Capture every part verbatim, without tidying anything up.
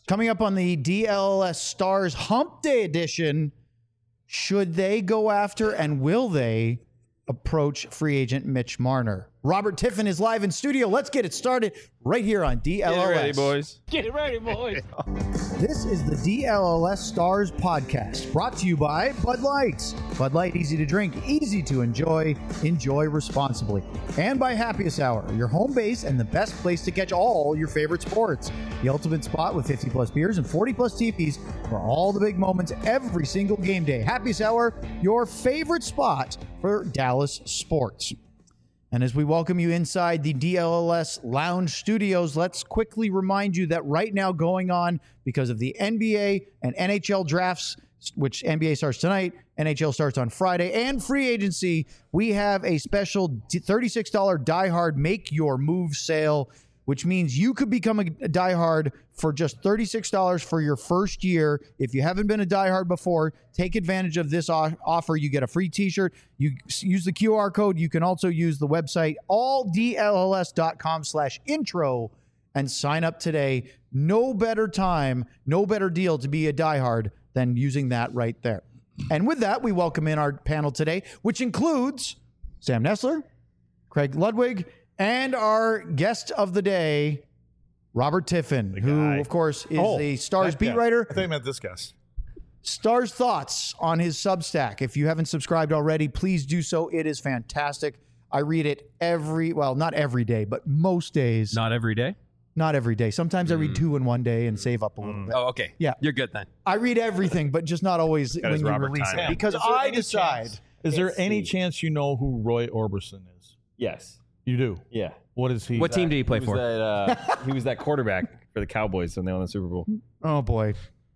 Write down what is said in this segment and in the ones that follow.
Coming up on the D L L S Stars Hump Day edition, should they go after and will they approach free agent Mitch Marner? Robert Tiffin is live in studio. Let's get it started right here on D L L S. Get it ready, boys. Get it ready, boys. This is the D L L S Stars podcast, brought to you by Bud Light. Bud Light, easy to drink, easy to enjoy, enjoy responsibly. And by Happiest Hour, your home base and the best place to catch all your favorite sports. The ultimate spot with fifty plus beers and forty plus T Vs for all the big moments every single game day. Happiest Hour, your favorite spot for Dallas sports. And as we welcome you inside the D L L S Lounge Studios, let's quickly remind you that right now going on because of the N B A and N H L drafts, which N B A starts tonight, N H L starts on Friday, and free agency, we have a special thirty-six dollars Die Hard Make Your Move sale, which means you could become a diehard for just thirty-six dollars for your first year. If you haven't been a diehard before, take advantage of this offer. You get a free t-shirt. You use the Q R code. You can also use the website all D L L S dot com slash intro and sign up today. No better time, no better deal to be a diehard than using that right there. And with that, we welcome in our panel today, which includes Sam Nessler, Craig Ludwig, and our guest of the day, Robert Tiffin, who, of course, is oh, the Stars beat guest. writer. I think I meant this guest. Stars Thoughts on his Substack. If you haven't subscribed already, please do so. It is fantastic. I read it every, well, not every day, but most days. Not every day? Not every day. Sometimes mm. I read two in one day and save up a little mm. bit. Oh, okay. Yeah. You're good then. I read everything, but just not always Got when you Robert release time. it. Because I decide. Chance, is there any see. chance you know who Roy Orbison is? Yes. You do? Yeah. What is he? What team That- did he play he for? Was that, uh, he was that quarterback for the Cowboys when they won the Super Bowl. Oh, boy.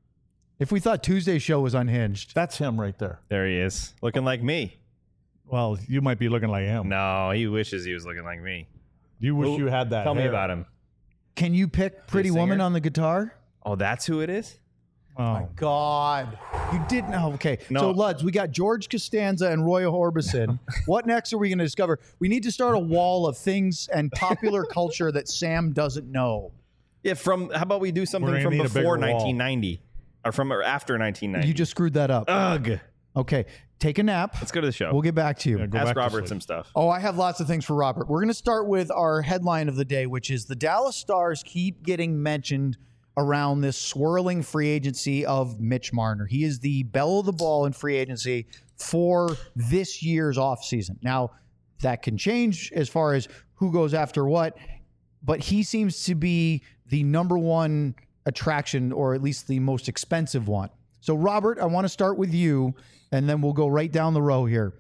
If we thought Tuesday's show was unhinged. That's him right there. There he is, looking like me. Well, you might be looking like him. No, he wishes he was looking like me. You wish Who- you had that Tell me hair. about him. Can you pick Pretty singer? Woman on the guitar? Oh, that's who it is? Oh. God. You didn't know. Okay. No. So, Luds, we got George Costanza and Roy Orbison. What next are we going to discover? We need to start a wall of things and popular culture that Sam doesn't know. Yeah, from, how about we do We're something gonna from need a bigger before wall. nineteen ninety? Or from or after nineteen ninety? You just screwed that up. Ugh. Okay. Take a nap. Let's go to the show. We'll get back to you. Yeah, go back Ask to Robert sleep. some stuff. Oh, I have lots of things for Robert. We're going to start with our headline of the day, which is the Dallas Stars keep getting mentioned around this swirling free agency of Mitch Marner. He is the belle of the ball in free agency for this year's offseason. Now, that can change as far as who goes after what, but he seems to be the number one attraction, or at least the most expensive one. So, Robert, I want to start with you, and then we'll go right down the row here.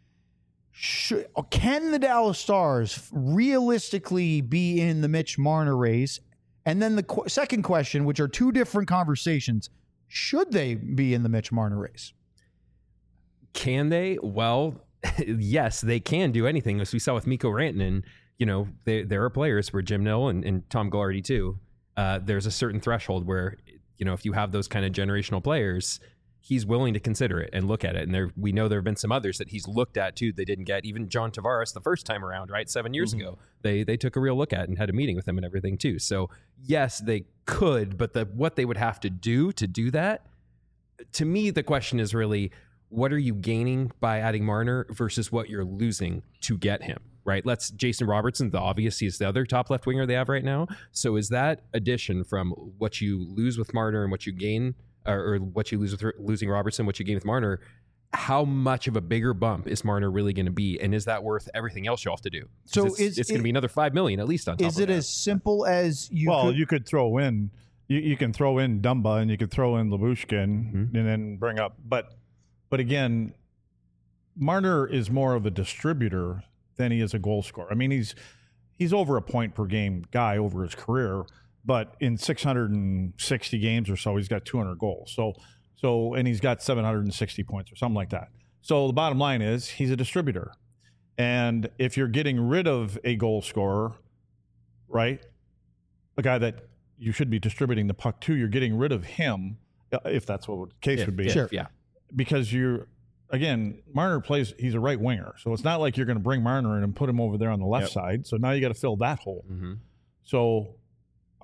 Should, can the Dallas Stars realistically be in the Mitch Marner race? And then the qu- second question, which are two different conversations, should they be in the Mitch Marner race? Can they? Well, yes, they can do anything. As we saw with Mikko Rantanen, you know, they, there are players where Jim Nill and, and Tom Glardy too. Uh, there's a certain threshold where, you know, if you have those kind of generational players, he's willing to consider it and look at it. And there, we know there have been some others that he's looked at too. They didn't get. Even John Tavares the first time around, right, seven years mm-hmm. ago, they they took a real look at and had a meeting with him and everything too. So yes, they could, but the what they would have to do to do that, to me, the question is really, what are you gaining by adding Marner versus what you're losing to get him? Right. Let's Jason Robertson, the obvious, he's the other top left winger they have right now. So is that addition from what you lose with Marner and what you gain, or, or what you lose with losing Robertson, what you gain with Marner, how much of a bigger bump is Marner really going to be? And is that worth everything else you have to do? So it's, is, it's going to be another five million at least on top Is of it that. as simple as you Well, could, you could throw in, you, you can throw in Dumba and you could throw in Labushkin Mm-hmm. and then bring up. But, but again, Marner is more of a distributor than he is a goal scorer. I mean, he's he's over a point per game guy over his career, but in six hundred sixty games or so, he's got two hundred goals. So, so and he's got seven hundred sixty points or something like that. So the bottom line is he's a distributor. And if you're getting rid of a goal scorer, right, a guy that you should be distributing the puck to, you're getting rid of him, if that's what the case If- would be. if, Sure. Yeah. Because you're, again, Marner plays, he's a right winger. So it's not like you're going to bring Marner in and put him over there on the left Yep. side. So now you got to fill that hole. Mm-hmm. So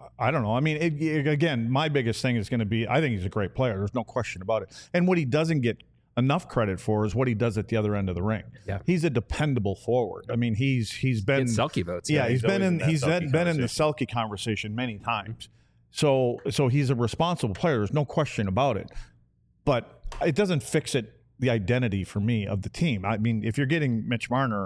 I don't know. I mean, it, it, again, my biggest thing is going to be I think he's a great player. There's no question about it. And what he doesn't get enough credit for is what he does at the other end of the ring. Yeah. He's a dependable forward. I mean, he's he's been Get Selke votes. Yeah, Yeah, he's he's been always in in that he's Selke been in the Selke conversation many times. So so he's a responsible player. There's no question about it. But it doesn't fix it the identity for me of the team. I mean, if you're getting Mitch Marner,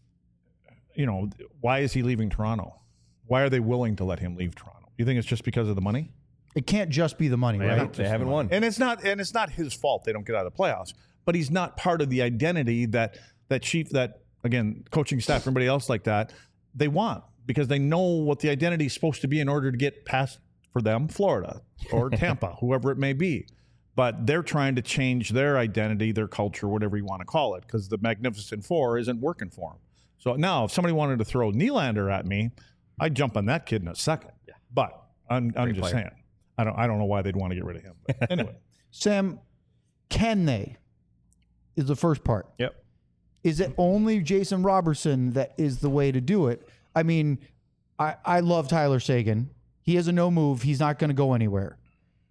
you know, why is he leaving Toronto? Why are they willing to let him leave Toronto? You think it's just because of the money? It can't just be the money, They right? haven't, they haven't won. And it's not and it's not his fault they don't get out of the playoffs, but he's not part of the identity that that chief that again, coaching staff, everybody else like that, they want because they know what the identity is supposed to be in order to get past for them, Florida or Tampa, whoever it may be. But they're trying to change their identity, their culture, whatever you want to call it, because the Magnificent Four isn't working for them. So now if somebody wanted to throw Nylander at me, I'd jump on that kid in a second. Yeah. But I'm I'm Great just player. saying. I don't I don't know why they'd want to get rid of him. But anyway. Sam, can they? Is the first part. Yep. Is it only Jason Robertson that is the way to do it? I mean, I, I love Tyler Seguin. He has a no move. He's not going to go anywhere.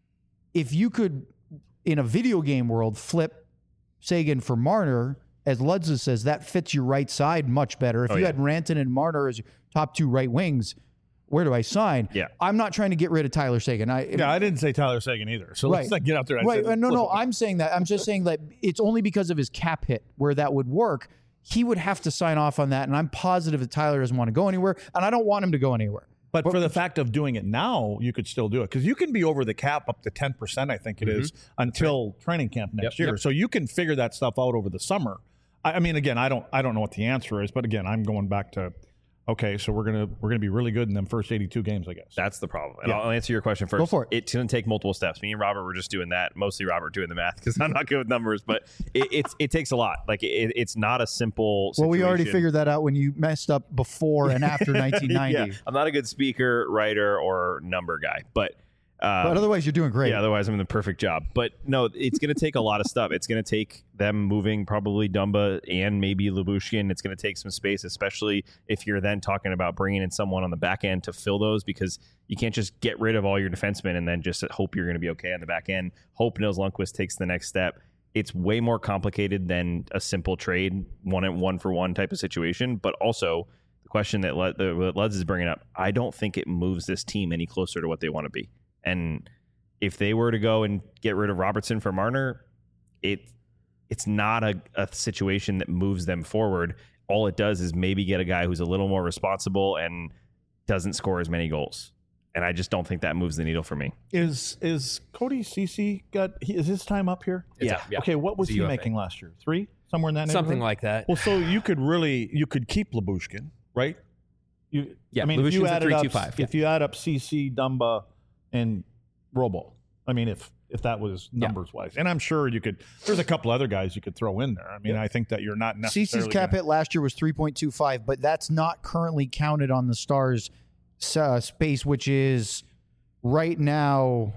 If you could, in a video game world, flip Seguin for Marner, as Ludza says, that fits your right side much better. If Oh, you yeah. had Rantanen and Marner as your top two right wings, where do I sign? Yeah. I'm not trying to get rid of Tyler Seguin. I, Yeah, I didn't say Tyler Seguin either. So Right. let's not get out there. And Right. say, uh, No, no, listen, I'm saying that. I'm just saying that it's only because of his cap hit where that would work. He would have to sign off on that. And I'm positive that Tyler doesn't want to go anywhere. And I don't want him to go anywhere. But for the fact of doing it now, you could still do it because you can be over the cap up to ten percent, I think it is, until training camp next Yep, year. yep. So you can figure that stuff out over the summer. I, I mean, again, I don't, I don't know what the answer is, but again, I'm going back to, okay, so we're gonna, we're gonna be really good in them first eighty-two games, I guess. That's the problem. And Yeah. I'll answer your question first. Go for it. It's going to take multiple steps. Me and Robert were just doing that. Mostly Robert doing the math because I'm not good with numbers, but it, it's it takes a lot. Like it, it's not a simple situation. Well, we already figured that out when you messed up before and after nineteen ninety. Yeah, I'm not a good speaker, writer, or number guy, but. Um, But otherwise, you're doing great. Yeah, otherwise I'm in the perfect job. But no, it's going to take a lot of stuff. It's going to take them moving probably Dumba and maybe Lyubushkin. It's going to take some space, especially if you're then talking about bringing in someone on the back end to fill those because you can't just get rid of all your defensemen and then just hope you're going to be okay on the back end. Hope Nils Lundkvist takes the next step. It's way more complicated than a simple trade, one and one for one type of situation. But also the question that Lud- that Luds is bringing up, I don't think it moves this team any closer to what they want to be. And if they were to go and get rid of Robertson for Marner, it it's not a, a situation that moves them forward. All it does is maybe get a guy who's a little more responsible and doesn't score as many goals. And I just don't think that moves the needle for me. Is is Cody Ceci got? He, is his time up here? It's Yeah. a- yeah. Okay, what was It's a he U F A. making last year? Three, somewhere in that Something neighborhood? like that. Well, so you could really you could keep Lyubushkin, right? You, Yeah, I mean, if you Lyubushkin's a added three up, two five, if you add up C C, Dumba, and Robo, I mean, if if that was numbers wise, and I'm sure you could. There's a couple other guys you could throw in there. I mean, I think that you're not necessarily. Cece's cap gonna- hit last year was three point two five, but that's not currently counted on the Stars uh, space, which is right now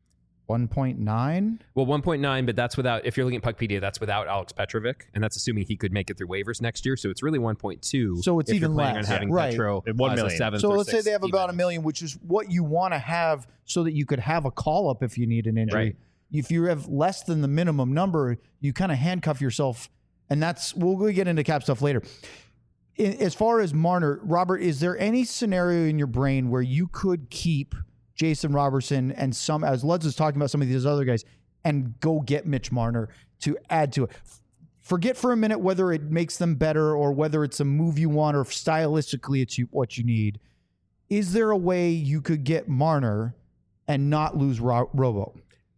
one point nine. Well, one point nine, but that's without, if you're looking at Puckpedia, that's without Alex Petrovic, and that's assuming he could make it through waivers next year. So it's really one point two. So it's if you're even planning less. on having Right. Petro At one as a million. seventh So or let's say sixth they have about even. a million, which is what you want to have so that you could have a call up if you need an injury. Right. If you have less than the minimum number, you kind of handcuff yourself, and that's we'll, we'll get into cap stuff later. In, as far as Marner, Robert, is there any scenario in your brain where you could keep Jason Robertson and some, as Lutz is talking about some of these other guys, and go get Mitch Marner to add to it? Forget for a minute whether it makes them better or whether it's a move you want or if stylistically it's you, what you need. Is there a way you could get Marner and not lose Ro- Robo?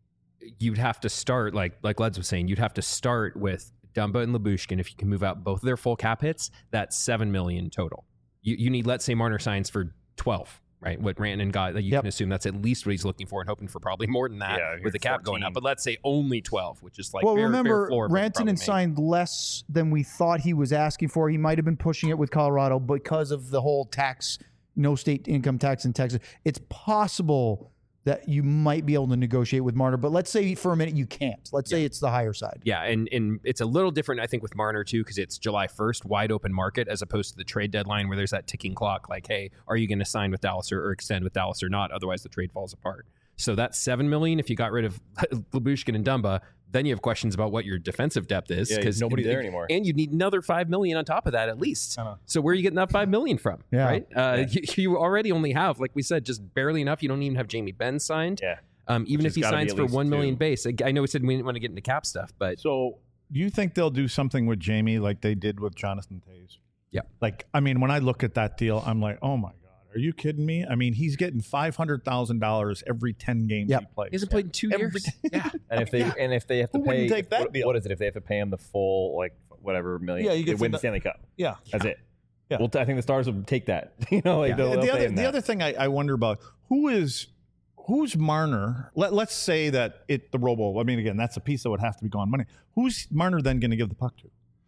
You'd have to start, like like Leds was saying, you'd have to start with Dumba and Lyubushkin. If you can move out both of their full cap hits, that's seven million total. You you need, let's say Marner signs for twelve, right? What Rantanen got, you Yep. can assume that's at least what he's looking for and hoping for probably more than that Yeah, with the cap going up. fourteen. But let's say only twelve, which is like well, fair, remember, fair floor, but probably Rantanen make. signed less than we thought he was asking for. He might have been pushing it with Colorado because of the whole tax, no state income tax in Texas. It's possible that you might be able to negotiate with Marner. But let's say for a minute you can't. Let's say it's the higher side. Yeah, and, and it's a little different, I think, with Marner, too, because it's July first, wide open market, as opposed to the trade deadline where there's that ticking clock, like, hey, are you going to sign with Dallas or, or extend with Dallas or not? Otherwise, the trade falls apart. So that's seven million dollars if you got rid of Lyubushkin and Dumba. Then you have questions about what your defensive depth is. Yeah, because nobody there anymore. And you need another five million dollars on top of that at least. Uh-huh. So where are you getting that five million dollars from? Yeah. Right? Uh, Yeah. you, you already only have, like we said, just barely enough. You don't even have Jamie Benn signed. Yeah. Um, even Which if he has gotta be signs at for least one million two. base. I I know we said we didn't want to get into cap stuff, but So, do you think they'll do something with Jamie like they did with Jonathan Toews? Yeah. Like, I mean, when I look at that deal, I'm like, oh my God, are you kidding me? I mean, he's getting five hundred thousand dollars every ten games Yep. he plays. he hasn't played in two Every years. day. Yeah. And if they and if they have to Who pay, wouldn't take that what, deal? what is it? If they have to pay him the full like whatever million, Yeah, you they get win to the Stanley Cup. Yeah. That's it. Yeah. Well, I think the Stars will take that. you know, like Yeah. they'll, they'll the pay other him the that. other thing I, I wonder about who is who's Marner? Let, let's say that it the Robo. I mean, again, that's a piece that would have to be gone money. Who's Marner then going to give the puck to?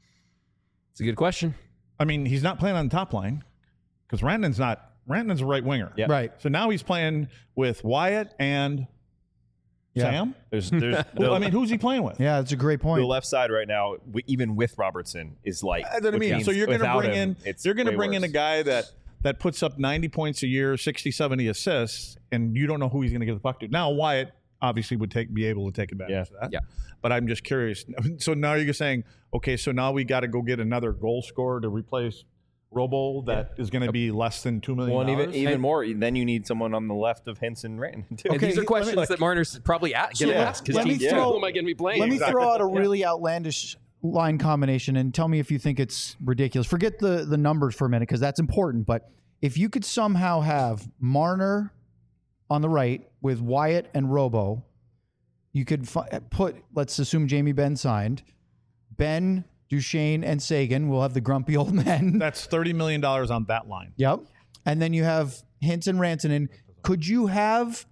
It's a good question. I mean, he's not playing on the top line because Rantanen's not. Rantanen's a right winger. Yeah. Right. So now he's playing with Wyatt and Yeah. Sam. There's, there's Well, I mean, who's he playing with? Yeah, that's a great the point. left side right now, w- even with Robertson, is like. That's what I which mean. means So you're going to without bring him, in it's you're going to way bring in a worse. guy that that puts up ninety points a year, sixty, seventy assists, and you don't know who he's going to give the puck to. Now Wyatt obviously would take be able to take advantage Yeah. of that. Yeah. But I'm just curious. So now you're saying, okay, so now we got to go get another goal scorer to replace Robo that is going to be less than two million Well, and dollars. even even more, then you need someone on the left of Henson Ranton too. And Okay, these are let me- questions like- that Marner's probably at, going to Yeah. ask his Let me team. throw- Who am I going to be playing? Let me Exactly. throw out a really outlandish line combination and tell me if you think it's ridiculous. Forget the, the numbers for a minute because that's important. But if you could somehow have Marner on the right with Wyatt and Robo, you could fi- put, let's assume Jamie Benn signed, Ben, Duchesne, and Sagan will have the grumpy old men. That's thirty million dollars on that line. Yep. And then you have Hintz and Rantanen. Could you have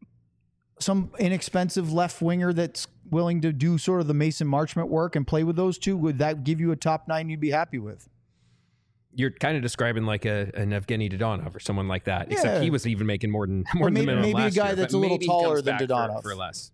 some inexpensive left winger that's willing to do sort of the Mason Marchment work and play with those two? Would that give you a top nine you'd be happy with? You're kind of describing like a an Evgeny Dodonov or someone like that. Except Yeah. he was even making more than more than maybe- the minimum maybe a last guy year, that's but a little maybe he taller comes than back for- Dodonov. for less.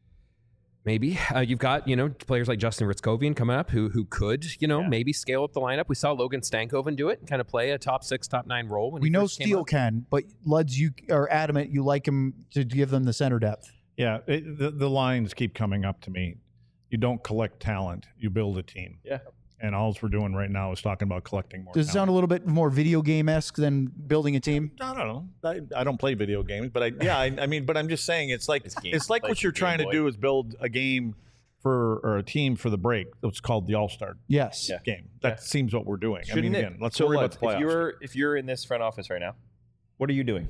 Maybe uh, you've got you know players like Justin Ritzkovian coming up who who could you know Yeah. maybe scale up the lineup. We saw Logan Stankoven do it and kind of play a top six, top nine role. When We he know first came Steele up. can, but Luds, you are adamant you like him to give them the center depth. Yeah, it, the, the lines keep coming up to me. You don't collect talent, you build a team. Yeah. And all we're doing right now is talking about collecting more Does it sound talent. a little bit more video game esque than building a team? I don't know. I, I don't play video games, but I yeah, I, I mean, but I'm just saying it's like It's it's, game- like like what you're Game trying to Boy. do is build a game for or a team for the break. It's called the All Star Yes. Yeah. game. That seems what we're doing. Shouldn't I mean, it? again, let's so worry Lutz, about the playoffs. If you're if you're in this front office right now, what are you doing?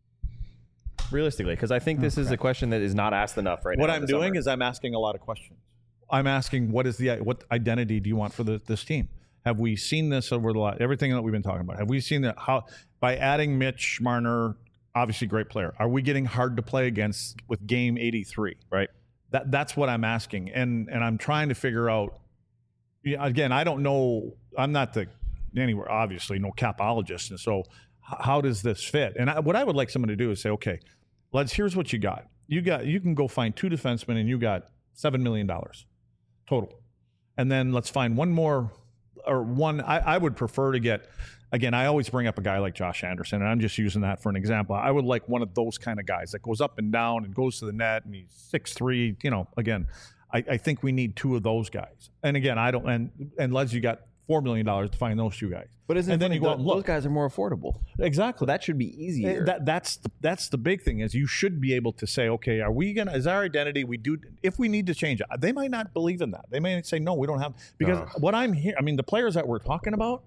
Realistically, because I think this is a question that is not asked enough right what now. I'm doing is I'm asking a lot of questions. I'm asking what is the what identity do you want for the, this team? Have we seen this over the lot? Everything that we've been talking about. Have we seen that? How by adding Mitch Marner, obviously great player. Are we getting hard to play against with game eighty-three? right. That that's what I'm asking, and and I'm trying to figure out. Yeah, again, I don't know. I'm not the anywhere obviously no capologist, and so h- how does this fit? And I, what I would like someone to do is say, okay, let's. Here's what you got. You got you can go find two defensemen, and you got seven million dollars total, and then let's find one more or one. I, I would prefer to get. Again, I always bring up a guy like Josh Anderson, and I'm just using that for an example. I would like one of those kind of guys that goes up and down and goes to the net, and he's six three. You know, again, I, I think we need two of those guys. And again, I don't. And and Les, you got four million dollars to find those two guys. But isn't and it then funny, you go out and those look. guys are more affordable. Exactly. So that should be easier. Eh, That that's the, that's the big thing is you should be able to say, okay, are we gonna is our identity? We do if we need to change it. They might not believe in that. They may say no, we don't have because No. what I'm here. I mean, the players that we're talking about,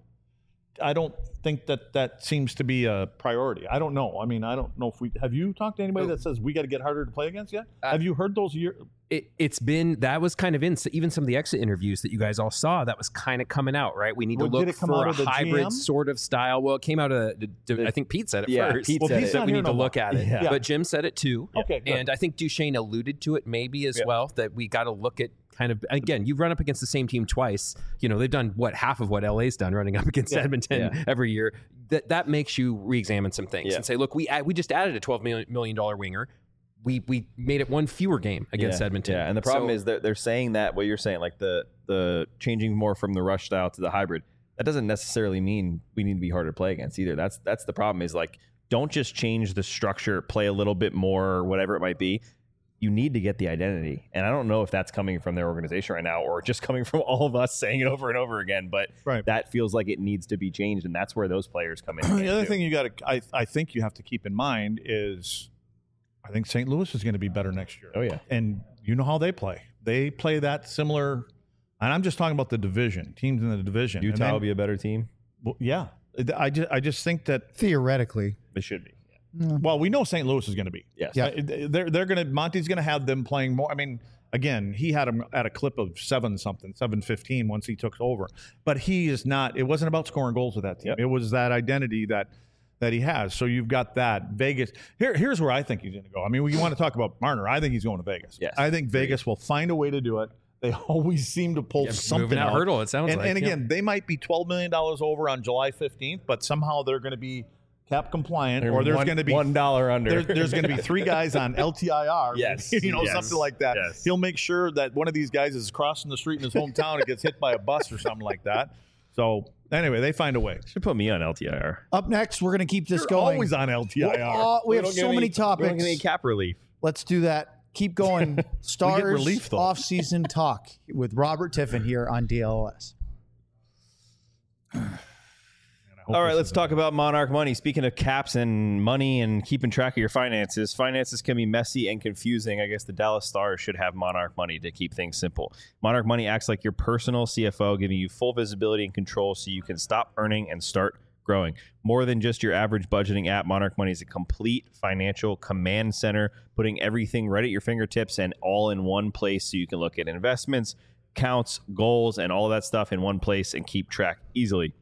I don't think that that seems to be a priority. I don't know. I mean, I don't know if we have you talked to anybody that says we got to get harder to play against yet. Uh, have you heard those year? It, it's been that was kind of in so even some of the exit interviews that you guys all saw. That was kind of coming out, right? We need Well, to did look it come for out a of the G hybrid M? sort of style. Well, it came out of the, the, I think Pete said it Yeah, first. Pete Well, said Pete's it. not that we here need no to more. look at it. Yeah. But Jim said it too. Okay, good. And I think Duchesne alluded to it maybe as Yeah. well, that we got to look at kind of, again, you run up against the same team twice. You know, they've done what half of what L A's done running up against Yeah. Edmonton Yeah. every year. That that makes you re-examine some things Yeah. and say, look, we add, we just added a twelve million dollars winger. we we made it one fewer game against yeah, Edmonton. Yeah, and the problem So- is that they're saying that what you're saying, like the the changing more from the rush style to the hybrid. That doesn't necessarily mean we need to be harder to play against either. That's that's the problem. Is like don't just change the structure, play a little bit more, or whatever it might be. You need to get the identity, and I don't know if that's coming from their organization right now or just coming from all of us saying it over and over again. But Right. that feels like it needs to be changed, and that's where those players come in. The other thing you got to, I, I think you have to keep in mind is, I think Saint Louis is going to be better next year. Oh yeah, And you know how they play. They play that similar, and I'm just talking about the division, teams in the division. Utah And then- will be a better team. well, yeah. I just, I just think that, Theoretically. They should be. well, we know Saint Louis is going to be. Yes. Yeah. Uh, They're, they're going to, Monty's going to have them playing more. I mean, again, he had him at a clip of seven something, seven fifteen once he took over. But he is not, it wasn't about scoring goals with that team. Yep. It was that identity that that he has. So you've got that. Vegas. Here, here's where I think he's going to go. I mean, you want to talk about Marner. I think he's going to Vegas. Yes. I think Vegas will find a way to do it. They always seem to pull Yeah, something moving that out. hurdle, it sounds and, like, And yeah. again, they might be twelve million dollars over on July fifteenth, but somehow they're going to be cap compliant, or there's one, going to be one dollar under. there, there's going to be three guys on L T I R. Yes. you know, Yes. something like that. Yes. He'll make sure that one of these guys is crossing the street in his hometown and gets hit by a bus or something like that. So anyway, they find a way. Should put me on L T I R. Up next, we're going to keep this You're going. always on L T I R. Oh, we, have don't get so any- many We don't topics. get any cap relief. Let's do that. Keep going. Stars relief, though. off-season talk with Robert Tiffin here on D L O S. All right, let's talk about Monarch Money. Speaking of caps and money and keeping track of your finances, finances can be messy and confusing. I guess the Dallas Stars should have Monarch Money to keep things simple. Monarch Money acts like your personal C F O, giving you full visibility and control so you can stop earning and start growing. More than just your average budgeting app, Monarch Money is a complete financial command center, putting everything right at your fingertips and all in one place so you can look at investments, counts, goals, and all of that stuff in one place and keep track easily.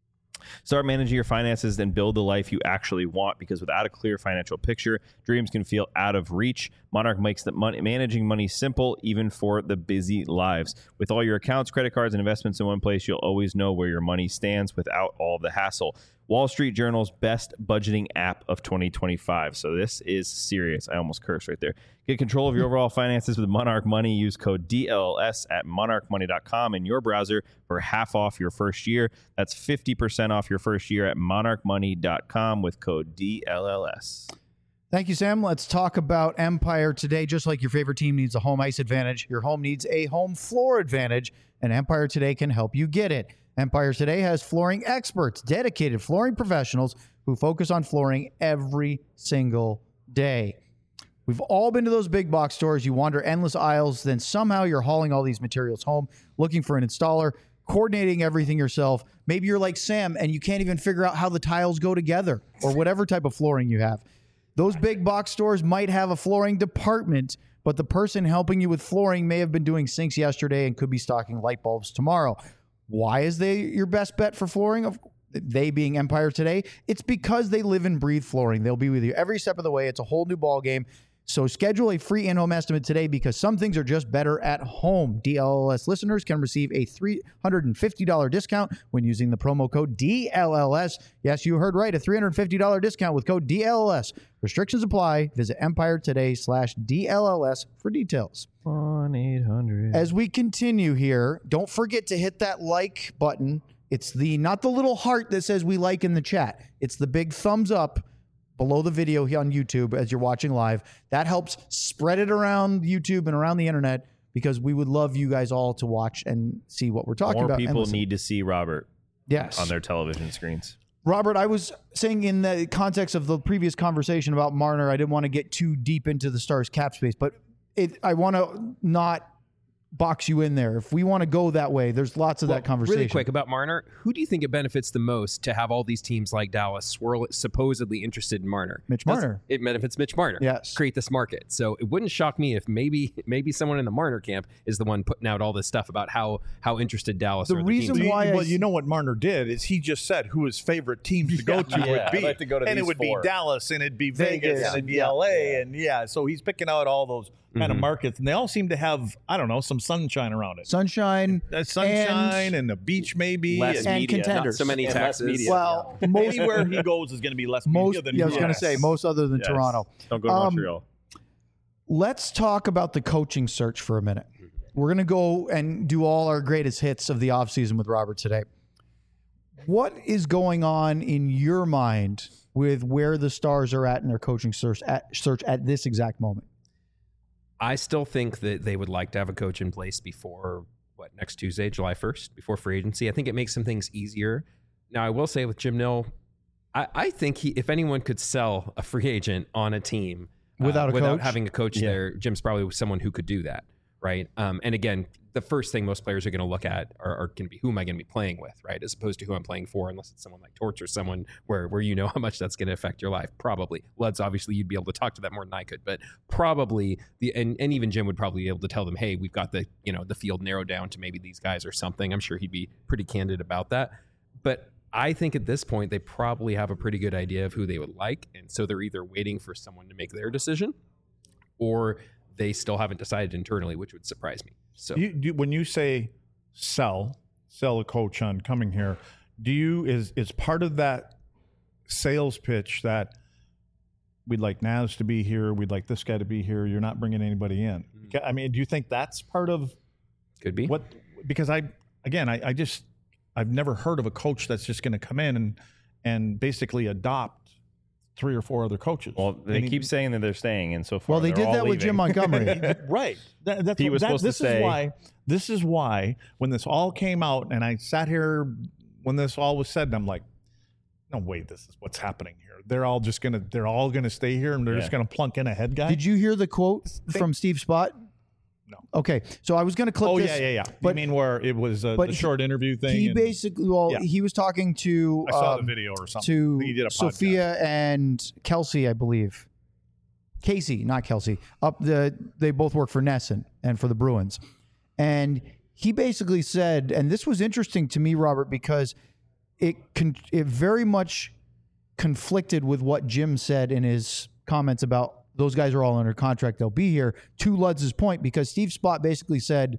Start managing your finances and build the life you actually want, because without a clear financial picture, dreams can feel out of reach. Monarch makes the money, managing money simple, even for the busy lives. With all your accounts, credit cards, and investments in one place, you'll always know where your money stands without all the hassle. Wall Street Journal's best budgeting app of twenty twenty-five. So this is serious. I almost cursed right there. Get control of your overall finances with Monarch Money. Use code D L L S at monarch money dot com in your browser for half off your first year. That's fifty percent off your first year at monarch money dot com with code D L L S. Thank you, Sam. Let's talk about Empire Today. Just like your favorite team needs a home ice advantage, your home needs a home floor advantage, and Empire Today can help you get it. Empire Today has flooring experts, dedicated flooring professionals who focus on flooring every single day. We've all been to those big box stores. You wander endless aisles, then somehow you're hauling all these materials home, looking for an installer, coordinating everything yourself. Maybe you're like Sam and you can't even figure out how the tiles go together or whatever type of flooring you have. Those big box stores might have a flooring department, but the person helping you with flooring may have been doing sinks yesterday and could be stocking light bulbs tomorrow. Why is they your best bet for flooring? Of they being Empire Today, it's because they live and breathe flooring. They'll be with you every step of the way. It's a whole new ball game. So schedule a free in-home estimate today, because some things are just better at home. D L L S listeners can receive a three hundred fifty dollars discount when using the promo code D L L S. Yes, you heard right, a three hundred fifty dollars discount with code D L L S. Restrictions apply. Visit Empire Today slash D L L S for details. one eight hundred As we continue here, don't forget to hit that like button. It's the not the little heart that says we like in the chat. It's the big thumbs up below the video here on YouTube as you're watching live. That helps spread it around YouTube and around the internet, because we would love you guys all to watch and see what we're talking More about. and people listen. need to see Robert yes. on their television screens. Robert, I was saying in the context of the previous conversation about Marner, I didn't want to get too deep into the Stars cap space, but it, I want to not box you in there. If we want to go that way, there's lots of Well, that conversation. Really quick about Marner, who do you think it benefits the most to have all these teams like Dallas swirl supposedly interested in Marner? Mitch Does- Marner. It benefits Mitch Marner. Yes. Create this market. So it wouldn't shock me if maybe maybe someone in the Marner camp is the one putting out all this stuff about how how interested Dallas The or reason teams. why I well, s- you know what Marner did is he just said who his favorite teams to go to Yeah, would I'd be, like to go to and it these would four. be Dallas, and it'd be Vegas, Vegas, and it'd be yeah. L A, and yeah, so he's picking out all those kind Mhm. of markets, and they all seem to have, I don't know, some sunshine around it. Sunshine, Uh, sunshine and, the beach maybe, Less and and media, not contenders. so many and less taxes. media. well, most anywhere he goes is going to be less most. media than Yeah, I was going to yes. say most other than Yes. Toronto. Don't go to Um, Montreal. Let's talk about the coaching search for a minute. We're going to go and do all our greatest hits of the offseason with Robert today. What is going on in your mind with where the Stars are at in their coaching search at, search at this exact moment? I still think that they would like to have a coach in place before, what, next Tuesday, July first, before free agency. I think it makes some things easier. Now, I will say with Jim Nill, I, I think he, if anyone could sell a free agent on a team without uh, a without coach? having a coach Yeah. there, Jim's probably someone who could do that, right? Um, and again, the first thing most players are going to look at are, are going to be who am I going to be playing with, right? As opposed to who I'm playing for, unless it's someone like Torch or someone where where you know how much that's going to affect your life. Probably. Luds, obviously, you'd be able to talk to that more than I could, but probably the and, and even Jim would probably be able to tell them, hey, we've got the you know the field narrowed down to maybe these guys or something. I'm sure he'd be pretty candid about that. But I think at this point they probably have a pretty good idea of who they would like, and so they're either waiting for someone to make their decision, or they still haven't decided internally, which would surprise me. So You, do, when you say sell, sell a coach on coming here, do you is is part of that sales pitch that we'd like Naz to be here, we'd like this guy to be here, you're not bringing anybody in? I mean, do you think that's part of could be what? Because I again, I, I just I've never heard of a coach that's just going to come in and and basically adopt three or four other coaches. Well, they And he- keep saying that they're staying, and so far Well, they they're did all that with Jim leaving. Montgomery. right. That, that's He what- was that- supposed to this say- is why. This is why when this all came out, and I sat here when this all was said, and I'm like, no way, this is what's happening here. They're all just gonna. They're all gonna stay here, and they're just Yeah. gonna plunk in a head guy. Did you hear the quote from Steve Spott? No. Okay, so I was going to clip Oh this. yeah, yeah, yeah. But you mean where it was uh, but the he- short interview thing? He and basically, well, Yeah. he was talking to I saw um, the video or something. to I think he did a podcast. Sophia and Kelsey, I believe. Casey, not Kelsey. Up the they both work for Nesson and for the Bruins. And he basically said, and this was interesting to me, Robert, because it con- it very much conflicted with what Jim said in his comments about those guys are all under contract, they'll be here, to Ludz's point, because Steve Spott basically said,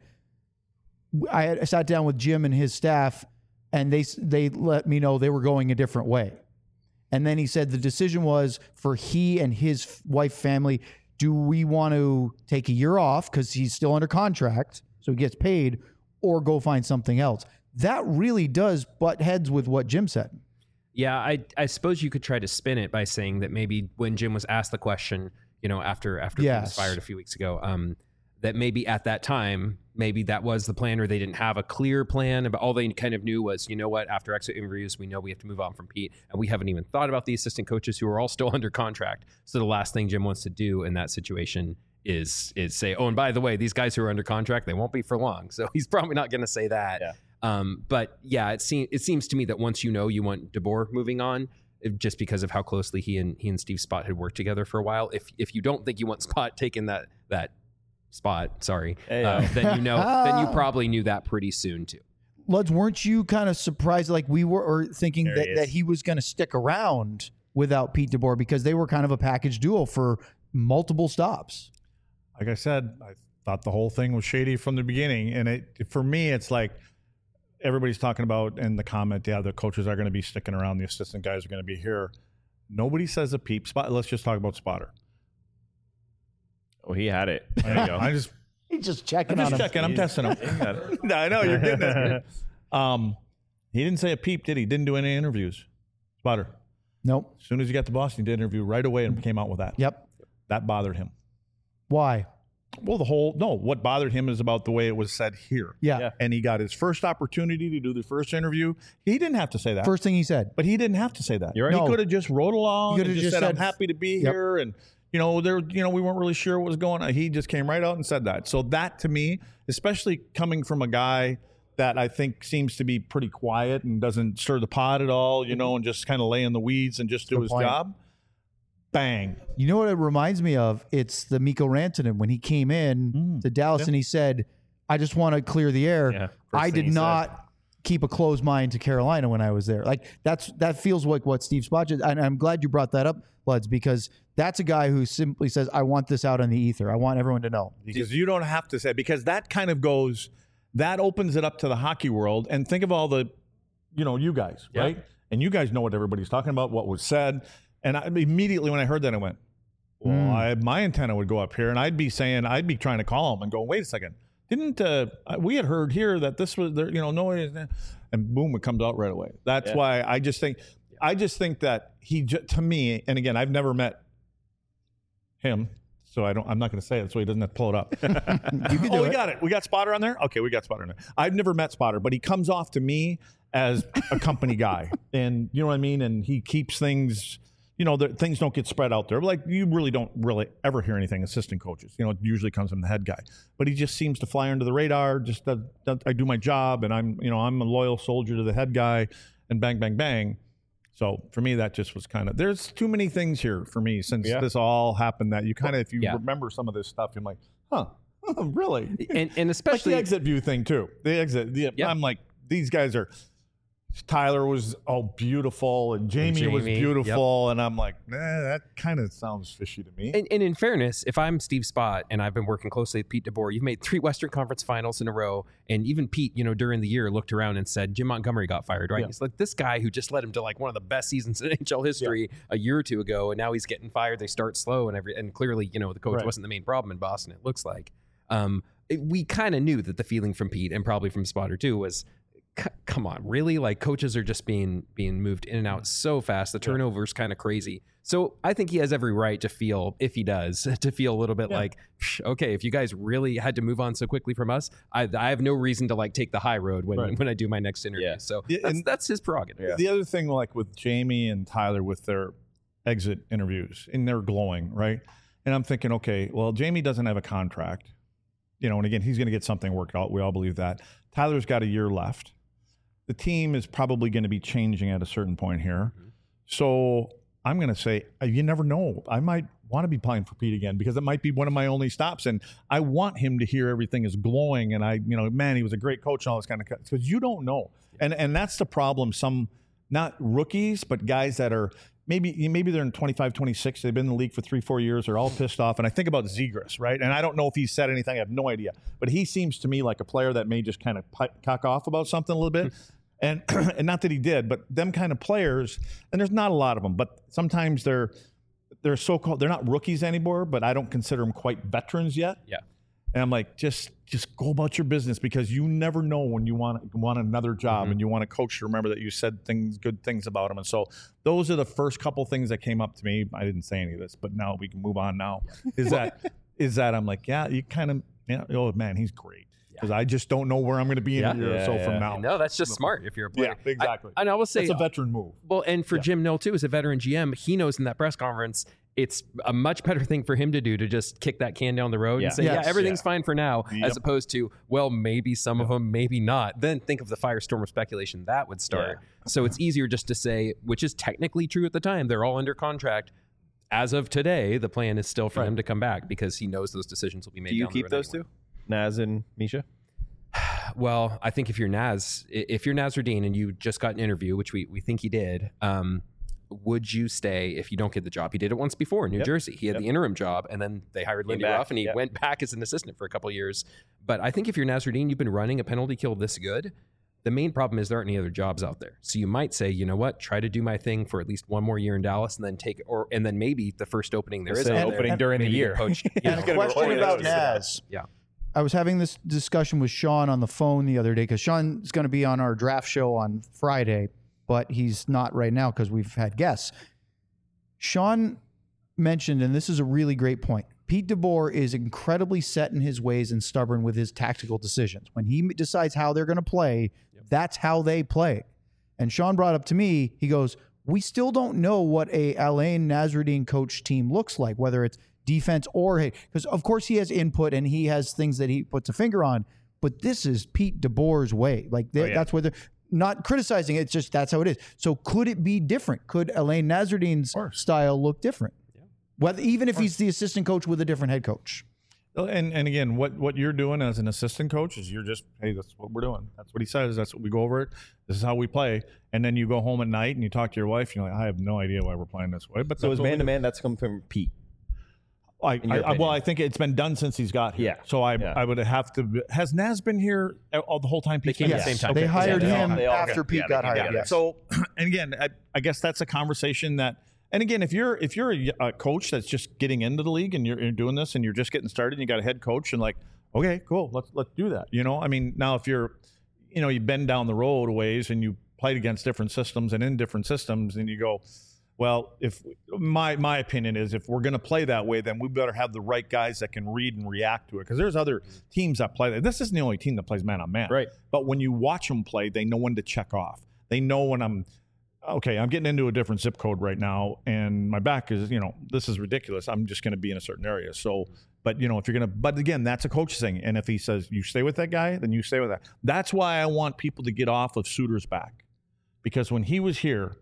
I, had, I sat down with Jim and his staff, and they they let me know they were going a different way. And then he said the decision was for he and his wife family, do we want to take a year off because he's still under contract, so he gets paid, or go find something else? That really does butt heads with what Jim said. Yeah, I I suppose you could try to spin it by saying that maybe when Jim was asked the question, you know, after after he was Yes. fired a few weeks ago, um, that maybe at that time, maybe that was the plan, or they didn't have a clear plan. But all they kind of knew was, you know what, after exit interviews, we know we have to move on from Pete, and we haven't even thought about the assistant coaches who are all still under contract. So the last thing Jim wants to do in that situation is is say, oh, and by the way, these guys who are under contract, they won't be for long. So he's probably not going to say that. Yeah. Um, but yeah, it seems it seems to me that once you know you want DeBoer moving on, it- just because of how closely he and he and Steve Spott had worked together for a while, if if you don't think you want Spott taking that that spot, sorry, Hey, uh, uh, then you know then you probably knew that pretty soon too. Luds, weren't you kind of surprised, like we were, or thinking There that, he is. that he was going to stick around without Pete DeBoer because they were kind of a package duo for multiple stops? Like I said, I thought the whole thing was shady from the beginning, and it for me, it's like everybody's talking about in the comment, yeah, the coaches are going to be sticking around, the assistant guys are going to be here. Nobody says a peep. Spot. Let's just talk about Spotter. Oh, he had it. There you go. I just, He's just checking I'm on just him. checking. I'm testing him. He got it. No, I know you're getting it. Um, he didn't say a peep, did he? Didn't do any interviews. Spotter. Nope. As soon as he got to Boston, he did an interview right away and came out with that. Yep. That bothered him. Why? Well, the whole no. What bothered him is about the way it was said here. Yeah. Yeah. And he got his first opportunity to do the first interview. He didn't have to say that. First thing he said. But he didn't have to say that. You're right. He No. could have just rode along. He and could have just just said, "I'm said- happy to be Yep. here," and you know, there, you know, we weren't really sure what was going on. He just came right out and said that. So that to me, especially coming from a guy that I think seems to be pretty quiet and doesn't stir the pot at all, you know, and just kind of lay in the weeds and just do Good his point. job. Bang. You know what it reminds me of? It's the Mikko Rantanen when he came in Mm. to Dallas Yeah. and he said, I just want to clear the air. Yeah, first I thing did he said. not keep a closed mind to Carolina when I was there. Like that's that feels like what Steve Spott did. And I'm glad you brought that up, Luds, because that's a guy who simply says, I want this out on the ether. I want everyone to know. Because you don't have to say, because that kind of goes, that opens it up to the hockey world. And think of all the, you know, you guys, Yeah. right? And you guys know what everybody's talking about, what was said. And I, immediately when I heard that, I went, Well, Mm. I, my antenna would go up here, and I'd be saying, I'd be trying to call him and go, wait a second, didn't uh, we had heard here that this was, there, you know, no, and boom, it comes out right away. That's Yeah. why I just think, I just think that he, j- to me, and again, I've never met him, so I don't, I'm not going to say it, so he doesn't have to pull it up. You can do oh, we it. got it. We got Spotter on there. Okay, we got Spotter on there. I've never met Spotter, but he comes off to me as a company guy, and you know what I mean. And he keeps things, you know, the, things don't get spread out there. Like you really don't really ever hear anything. Assistant coaches, you know, it usually comes from the head guy, but he just seems to fly under the radar. Just that, that I do my job, and I'm, you know, I'm a loyal soldier to the head guy, and bang, bang, bang. So for me, that just was kind of, there's too many things here for me since Yeah. this all happened that you kind of, if you Yeah. remember some of this stuff, you're like, huh, really? And and Like especially the exit view thing too. The exit. The, Yeah. I'm like, these guys are. Tyler was all beautiful, and Jamie, was Jamie, beautiful, and I'm like, eh, that kind of sounds fishy to me. And, and in fairness, if I'm Steve Spott and I've been working closely with Pete DeBoer, you've made three Western Conference Finals in a row, and even Pete, you know, during the year looked around and said Jim Montgomery got fired, right? Yeah. He's like, this guy who just led him to like one of the best seasons in N H L history a year or two ago, and now he's getting fired. They start slow, and every and clearly, you know, the coach Right. wasn't the main problem in Boston. It looks like. Um, it, we kind of knew that the feeling from Pete and probably from Spotter too was, C- come on, really? Like coaches are just being being moved in and out so fast. The turnover's kind of crazy. So I think he has every right to feel, if he does, to feel a little bit Yeah. like, "Psh, okay, if you guys really had to move on so quickly from us, I, I have no reason to like take the high road when Right. when I do my next interview. Yeah. So Yeah, that's, and- that's his prerogative. Yeah. The other thing, like with Jamie and Tyler with their exit interviews, and they're glowing, right? And I'm thinking, okay, well, Jamie doesn't have a contract, you know, and again, he's going to get something worked out. We all believe that. Tyler's got a year left. The team is probably going to be changing at a certain point here. Mm-hmm. So I'm going to say, uh, you never know. I might want to be playing for Pete again because it might be one of my only stops. And I want him to hear everything is glowing. And I, you know, man, he was a great coach and all this kind of stuff. Because you don't know. And and that's the problem. Some, not rookies, but guys that are maybe maybe they're in twenty-five, twenty-six. They've been in the league for three, four years. They're all pissed off. And I think about Zegras, right? And I don't know if he said anything. I have no idea. But he seems to me like a player that may just kind of pi- cock off about something a little bit. And, and not that he did, but them kind of players, and there's not a lot of them, but sometimes they're they're so-called, they're not rookies anymore, but I don't consider them quite veterans yet. Yeah. And I'm like, just just go about your business because you never know when you want want another job Mhm. and you want a coach to remember that you said things, good things about him. And so those are the first couple things that came up to me. I didn't say any of this, but now we can move on now. Is that is that I'm like, yeah, you kind of, yeah, oh man, he's great. Because I just don't know where I'm going to be in Yeah. a year or Yeah, so yeah. from now. No, that's just smart if you're a player. Yeah, exactly. I, and I will say, It's a veteran move. well, and for Yeah. Jim Nill too, as a veteran G M, he knows in that press conference, it's a much better thing for him to do to just kick that can down the road Yeah. and say, Yes. yeah, everything's Yeah. fine for now, Yep. as opposed to, well, maybe some of them, maybe not. Then think of the firestorm of speculation that would start. So it's easier just to say, which is technically true at the time, they're all under contract. As of today, the plan is still for Right. him to come back because he knows those decisions will be made. Do you down the keep road those anyway. two, Naz and Misha? Well, I think if you're Naz, i- if you're Nasruddin and you just got an interview, which we, we think he did, um, would you stay if you don't get the job? He did it once before in New Yep. Jersey. He had Yep. the interim job, and then they hired Came Lindy back. Ruff, and he Yep. went back as an assistant for a couple of years. But I think if you're Nasruddin, you've been running a penalty kill this good. The main problem is there aren't any other jobs out there. So you might say, you know what, try to do my thing for at least one more year in Dallas, and then take or and then maybe the first opening there is Say out opening there, during the maybe get year. poached, you And know. a gonna question record about it. Naz. Yeah. I was having this discussion with Sean on the phone the other day because Sean's going to be on our draft show on Friday, but he's not right now because we've had guests. Sean mentioned, and this is a really great point, Pete DeBoer is incredibly set in his ways and stubborn with his tactical decisions. When he decides how they're going to play, that's how they play. And Sean brought up to me, he goes, we still don't know what a Alain Nasruddin coach team looks like, whether it's defense or hit. Because, of course, he has input and he has things that he puts a finger on. But this is Pete DeBoer's way. Like, they, Oh, yeah. that's where they're not criticizing it. It's just that's how it is. So could it be different? Could Alain Nasruddin's course. style look different? Whether even if he's the assistant coach with a different head coach. And and again, what what you're doing as an assistant coach is you're just, hey, that's what we're doing. That's what he says. That's what we go over it. This is how we play. And then you go home at night and you talk to your wife. And you're like, I have no idea why we're playing this way. But So that's is what we man to do. man, that's come from Pete. I, in I, your I- well, opinion? I think it's been done since he's got here. Yeah. So I Yeah. I would have to. Has Naz been here all the whole time? They Pete's came been at the here? same time. They Okay. hired Yeah, they him all- they all after got- Pete yeah, got they hired. got it. Yes. So, and again, I, I guess that's a conversation that, And again, if you're if you're a, a coach that's just getting into the league and you're, you're doing this and you're just getting started, and you got a head coach and like, okay, cool, let's let's do that. You know, I mean, now if you're, you know, you've been down the road a ways and you played against different systems and in different systems, and you go, well, if my my opinion is if we're going to play that way, then we better have the right guys that can read and react to it. Because there's other teams that play that. This isn't the only team that plays man on man. Right. But when you watch them play, they know when to check off. They know when I'm, okay, I'm getting into a different zip code right now, and my back is, you know, this is ridiculous. I'm just going to be in a certain area. So, but, you know, if you're going to, but again, that's a coach thing. And if he says, you stay with that guy, then you stay with that. That's why I want people to get off of Suter's back. Because when he was here,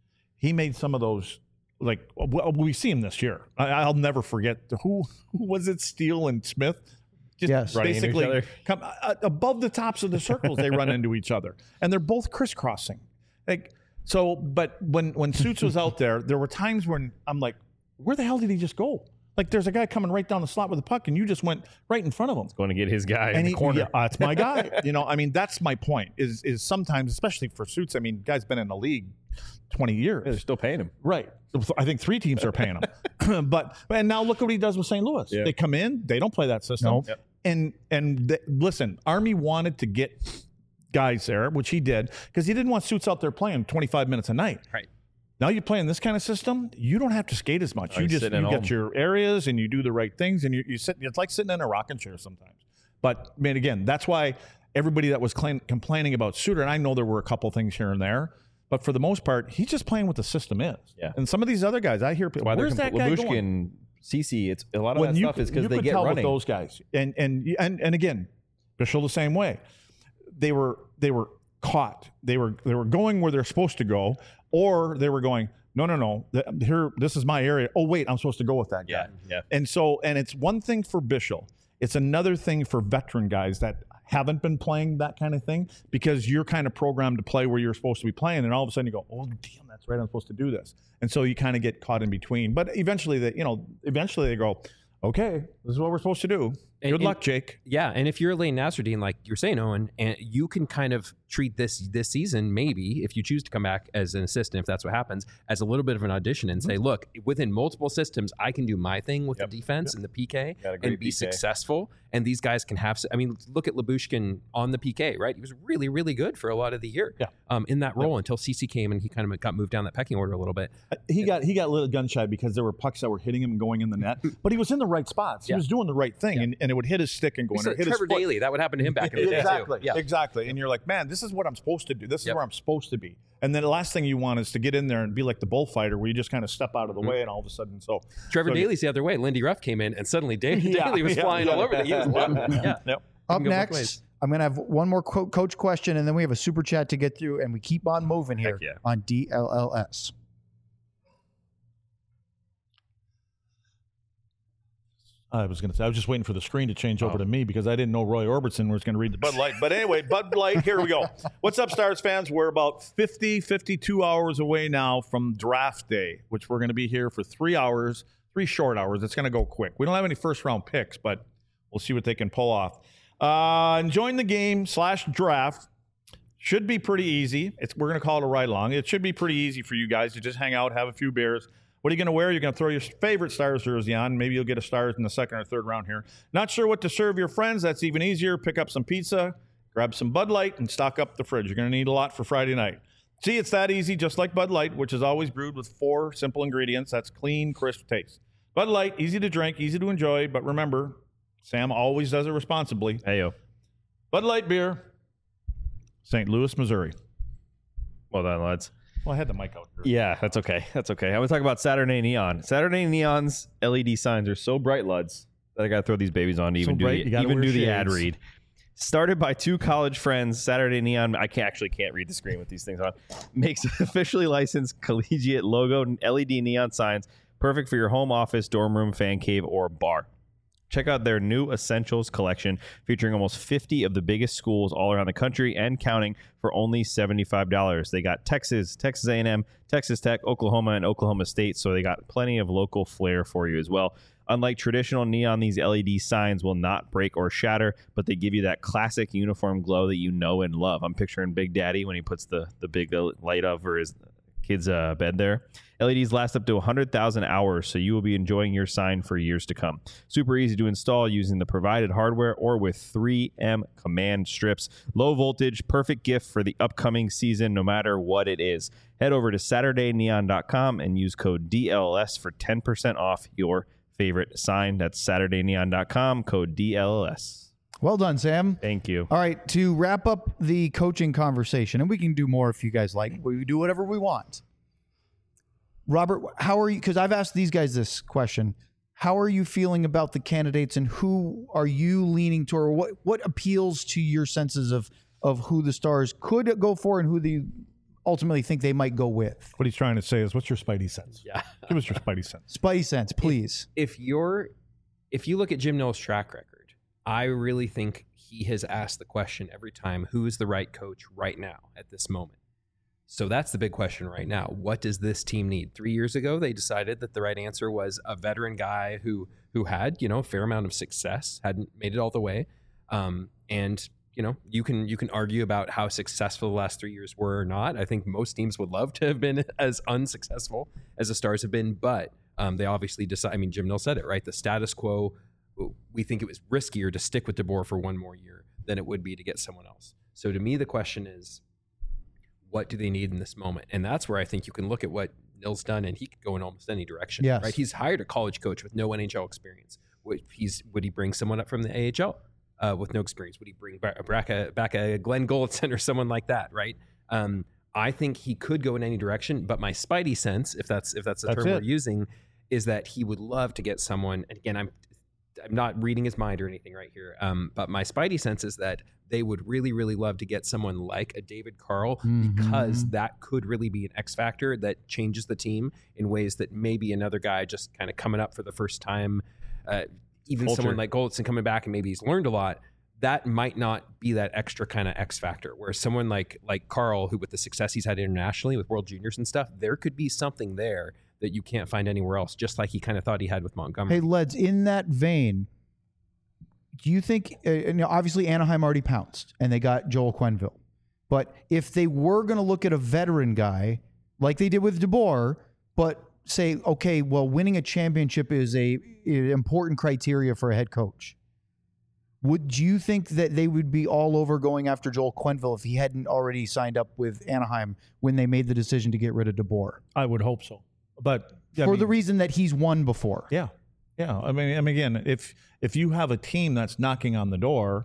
he made some of those, like, well, we see him this year. I, I'll never forget, who, who was it, Steele and Smith? Just Yes. basically come uh, above the tops of the circles, they run into each other. And they're both crisscrossing. Like, so, but when, when Suits was out there, there were times when I'm like, where the hell did he just go? Like, there's a guy coming right down the slot with the puck, and you just went right in front of him. Going to get his guy And in the he, corner. yeah, uh, that's my guy. You know, I mean, that's my point. Is is sometimes, especially for Suits. I mean, guy's been in the league twenty years. They're still paying him. Right. I think three teams are paying him. but and now look at what he does with Saint Louis. Yeah. They come in, they don't play that system. Nope. Yep. And and th- listen, Army wanted to get guys there, which he did, because he didn't want Suits out there playing twenty-five minutes a night. Right. Now you play in this kind of system, you don't have to skate as much. Oh, you you're just sitting you at get home. your areas and you do the right things, and you you sit. It's like sitting in a rocking chair sometimes. But I mean, again, that's why everybody that was claim, complaining about Suter, and I know there were a couple things here and there, but for the most part, he's just playing what the system is. Yeah. And some of these other guys, I hear people, Why where's they're that guy going? Labushkin, Cece, it's a lot of When that you stuff could- is because you they could get tell running. with those guys, and and and and again, Bishop the same way. They were they were caught. They were they were going where they're supposed to go, or they were going, no, no, no. th- Here, this is my area. Oh, wait, I'm supposed to go with that guy. Yeah, yeah. And so, and it's one thing for Bishop. It's another thing for veteran guys that haven't been playing that kind of thing, because you're kind of programmed to play where you're supposed to be playing, and all of a sudden you go, oh, damn, that's right, I'm supposed to do this. And so you kind of get caught in between. But eventually, they, you know, eventually they go, okay, this is what we're supposed to do. And- Good and- luck, Jake. Yeah, and if you're Lane Nasruddin, like you're saying, Owen, and you can kind of treat this this season, maybe if you choose to come back as an assistant, if that's what happens, as a little bit of an audition and say, look, within multiple systems, I can do my thing with Yep. the defense and the P K Got a great and be P K. successful. And these guys can have. I mean, look at Labushkin on the P K, right? He was really, really good for a lot of the year, Yeah. um, in that role until C C came and he kind of got moved down that pecking order a little bit. He got he got a little gun shy because there were pucks that were hitting him and going in the net, but he was in the right spots. He Yeah. was doing the right thing, Yeah. and, and it would hit his stick and go We in. saw Or hit Trevor his foot. Daly, that would happen to him back in the day Exactly. too. Yeah. Exactly. And you're like, man, this is what I'm supposed to do. This is Yep. where I'm supposed to be. And then the last thing you want is to get in there and be like the bullfighter, where you just kind of step out of the way, and all of a sudden, so Trevor so, Daly's the other way. Lindy Ruff came in, and suddenly Daly, Yeah, Daly was yeah, flying yeah. all over the. He was one. Yeah. Yep. Up can go both next, ways. I'm going to have one more co- coach question, and then we have a super chat to get through, and we keep on moving here Heck yeah. on D L L S. I was going to say, I was just waiting for the screen to change over to me because I didn't know Roy Orbison was going to read the Bud Light. But anyway, Bud Light, here we go. What's up, Stars fans? We're about fifty, fifty-two hours away now from draft day, which we're going to be here for three hours, three short hours. It's going to go quick. We don't have any first round picks, but we'll see what they can pull off. Uh, enjoying the game slash draft. Should be pretty easy. It's, we're going to call it a ride along. It should be pretty easy for you guys to just hang out, have a few beers. What are you going to wear? You're going to throw your favorite Stars jersey on. Maybe you'll get a Stars in the second or third round here. Not sure what to serve your friends? That's even easier. Pick up some pizza, grab some Bud Light, and stock up the fridge. You're going to need a lot for Friday night. See, it's that easy, just like Bud Light, which is always brewed with four simple ingredients. That's clean, crisp taste. Bud Light, easy to drink, easy to enjoy, but remember, Sam always does it responsibly. Hey, yo. Bud Light beer, Saint Louis, Missouri. Well done, lads. Well, I had the mic out here. Yeah, that's okay. That's okay. I'm going to talk about Saturday Neon. Saturday Neon's L E D signs are so bright, lads, that I got to throw these babies on to even So bright, do you the, gotta even wear do the ad shades. read. Started by two college friends, Saturday Neon, I can't actually can't read the screen with these things on, makes officially licensed collegiate logo L E D neon signs, perfect for your home office, dorm room, fan cave, or bar. Check out their new Essentials collection featuring almost fifty of the biggest schools all around the country and counting for only seventy-five dollars. They got Texas, Texas A and M, Texas Tech, Oklahoma, and Oklahoma State, so they got plenty of local flair for you as well. Unlike traditional neon, these L E D signs will not break or shatter, but they give you that classic uniform glow that you know and love. I'm picturing Big Daddy when he puts the, the big light over his kid's uh, bed there. L E Ds last up to one hundred thousand hours, so you will be enjoying your sign for years to come. Super easy to install using the provided hardware or with three M command strips. Low voltage, perfect gift for the upcoming season, no matter what it is. Head over to Saturday Neon dot com and use code D L L S for ten percent off your favorite sign. That's Saturday Neon dot com, code D L L S. Well done, Sam. Thank you. All right, to wrap up the coaching conversation, and we can do more if you guys like. We do whatever we want. Robert, how are you? Because I've asked these guys this question. How are you feeling about the candidates, and who are you leaning toward? What what appeals to your senses of of who the Stars could go for and who they ultimately think they might go with? What he's trying to say is, what's your Spidey sense? Yeah. Give us your Spidey sense. Spidey sense, please. If you're, if you look at Jim Nill's track record, I really think he has asked the question every time, who is the right coach right now at this moment? So that's the big question right now. What does this team need? Three years ago, they decided that the right answer was a veteran guy who who had, you know, a fair amount of success, hadn't made it all the way. Um, and, you know, you can you can argue about how successful the last three years were or not. I think most teams would love to have been as unsuccessful as the Stars have been, but um, they obviously decide. I mean, Jim Nill said it, right? The status quo. We think it was riskier to stick with DeBoer for one more year than it would be to get someone else. So to me, the question is, what do they need in this moment? And that's where I think you can look at what Nill's done, and he could go in almost any direction. Yes. Right? He's hired a college coach with no N H L experience. Would, he's, would he bring someone up from the A H L uh, with no experience? Would he bring back, back, a, back a Glenn Goldson or someone like that, right? Um, I think he could go in any direction, but my Spidey sense, if that's if that's the That's term it. we're using, is that he would love to get someone, and again, I'm I'm not reading his mind or anything right here. Um, but my Spidey sense is that they would really, really love to get someone like a David Carl Mhm. because that could really be an X factor that changes the team in ways that maybe another guy just kind of coming up for the first time, uh, even Culture. someone like Goldson coming back and maybe he's learned a lot, that might not be that extra kind of X factor. Whereas someone like like Carl, who with the success he's had internationally with World Juniors and stuff, there could be something there that you can't find anywhere else, just like he kind of thought he had with Montgomery. Hey, Leds, in that vein, do you think, uh, you know, obviously Anaheim already pounced and they got Joel Quenneville. But if they were going to look at a veteran guy like they did with DeBoer, but say, okay, well, winning a championship is a, a important criteria for a head coach, would you think that they would be all over going after Joel Quenneville if he hadn't already signed up with Anaheim when they made the decision to get rid of DeBoer? I would hope so. But I For mean, the reason that he's won before. yeah, yeah. I mean, I mean, again, if if you have a team that's knocking on the door,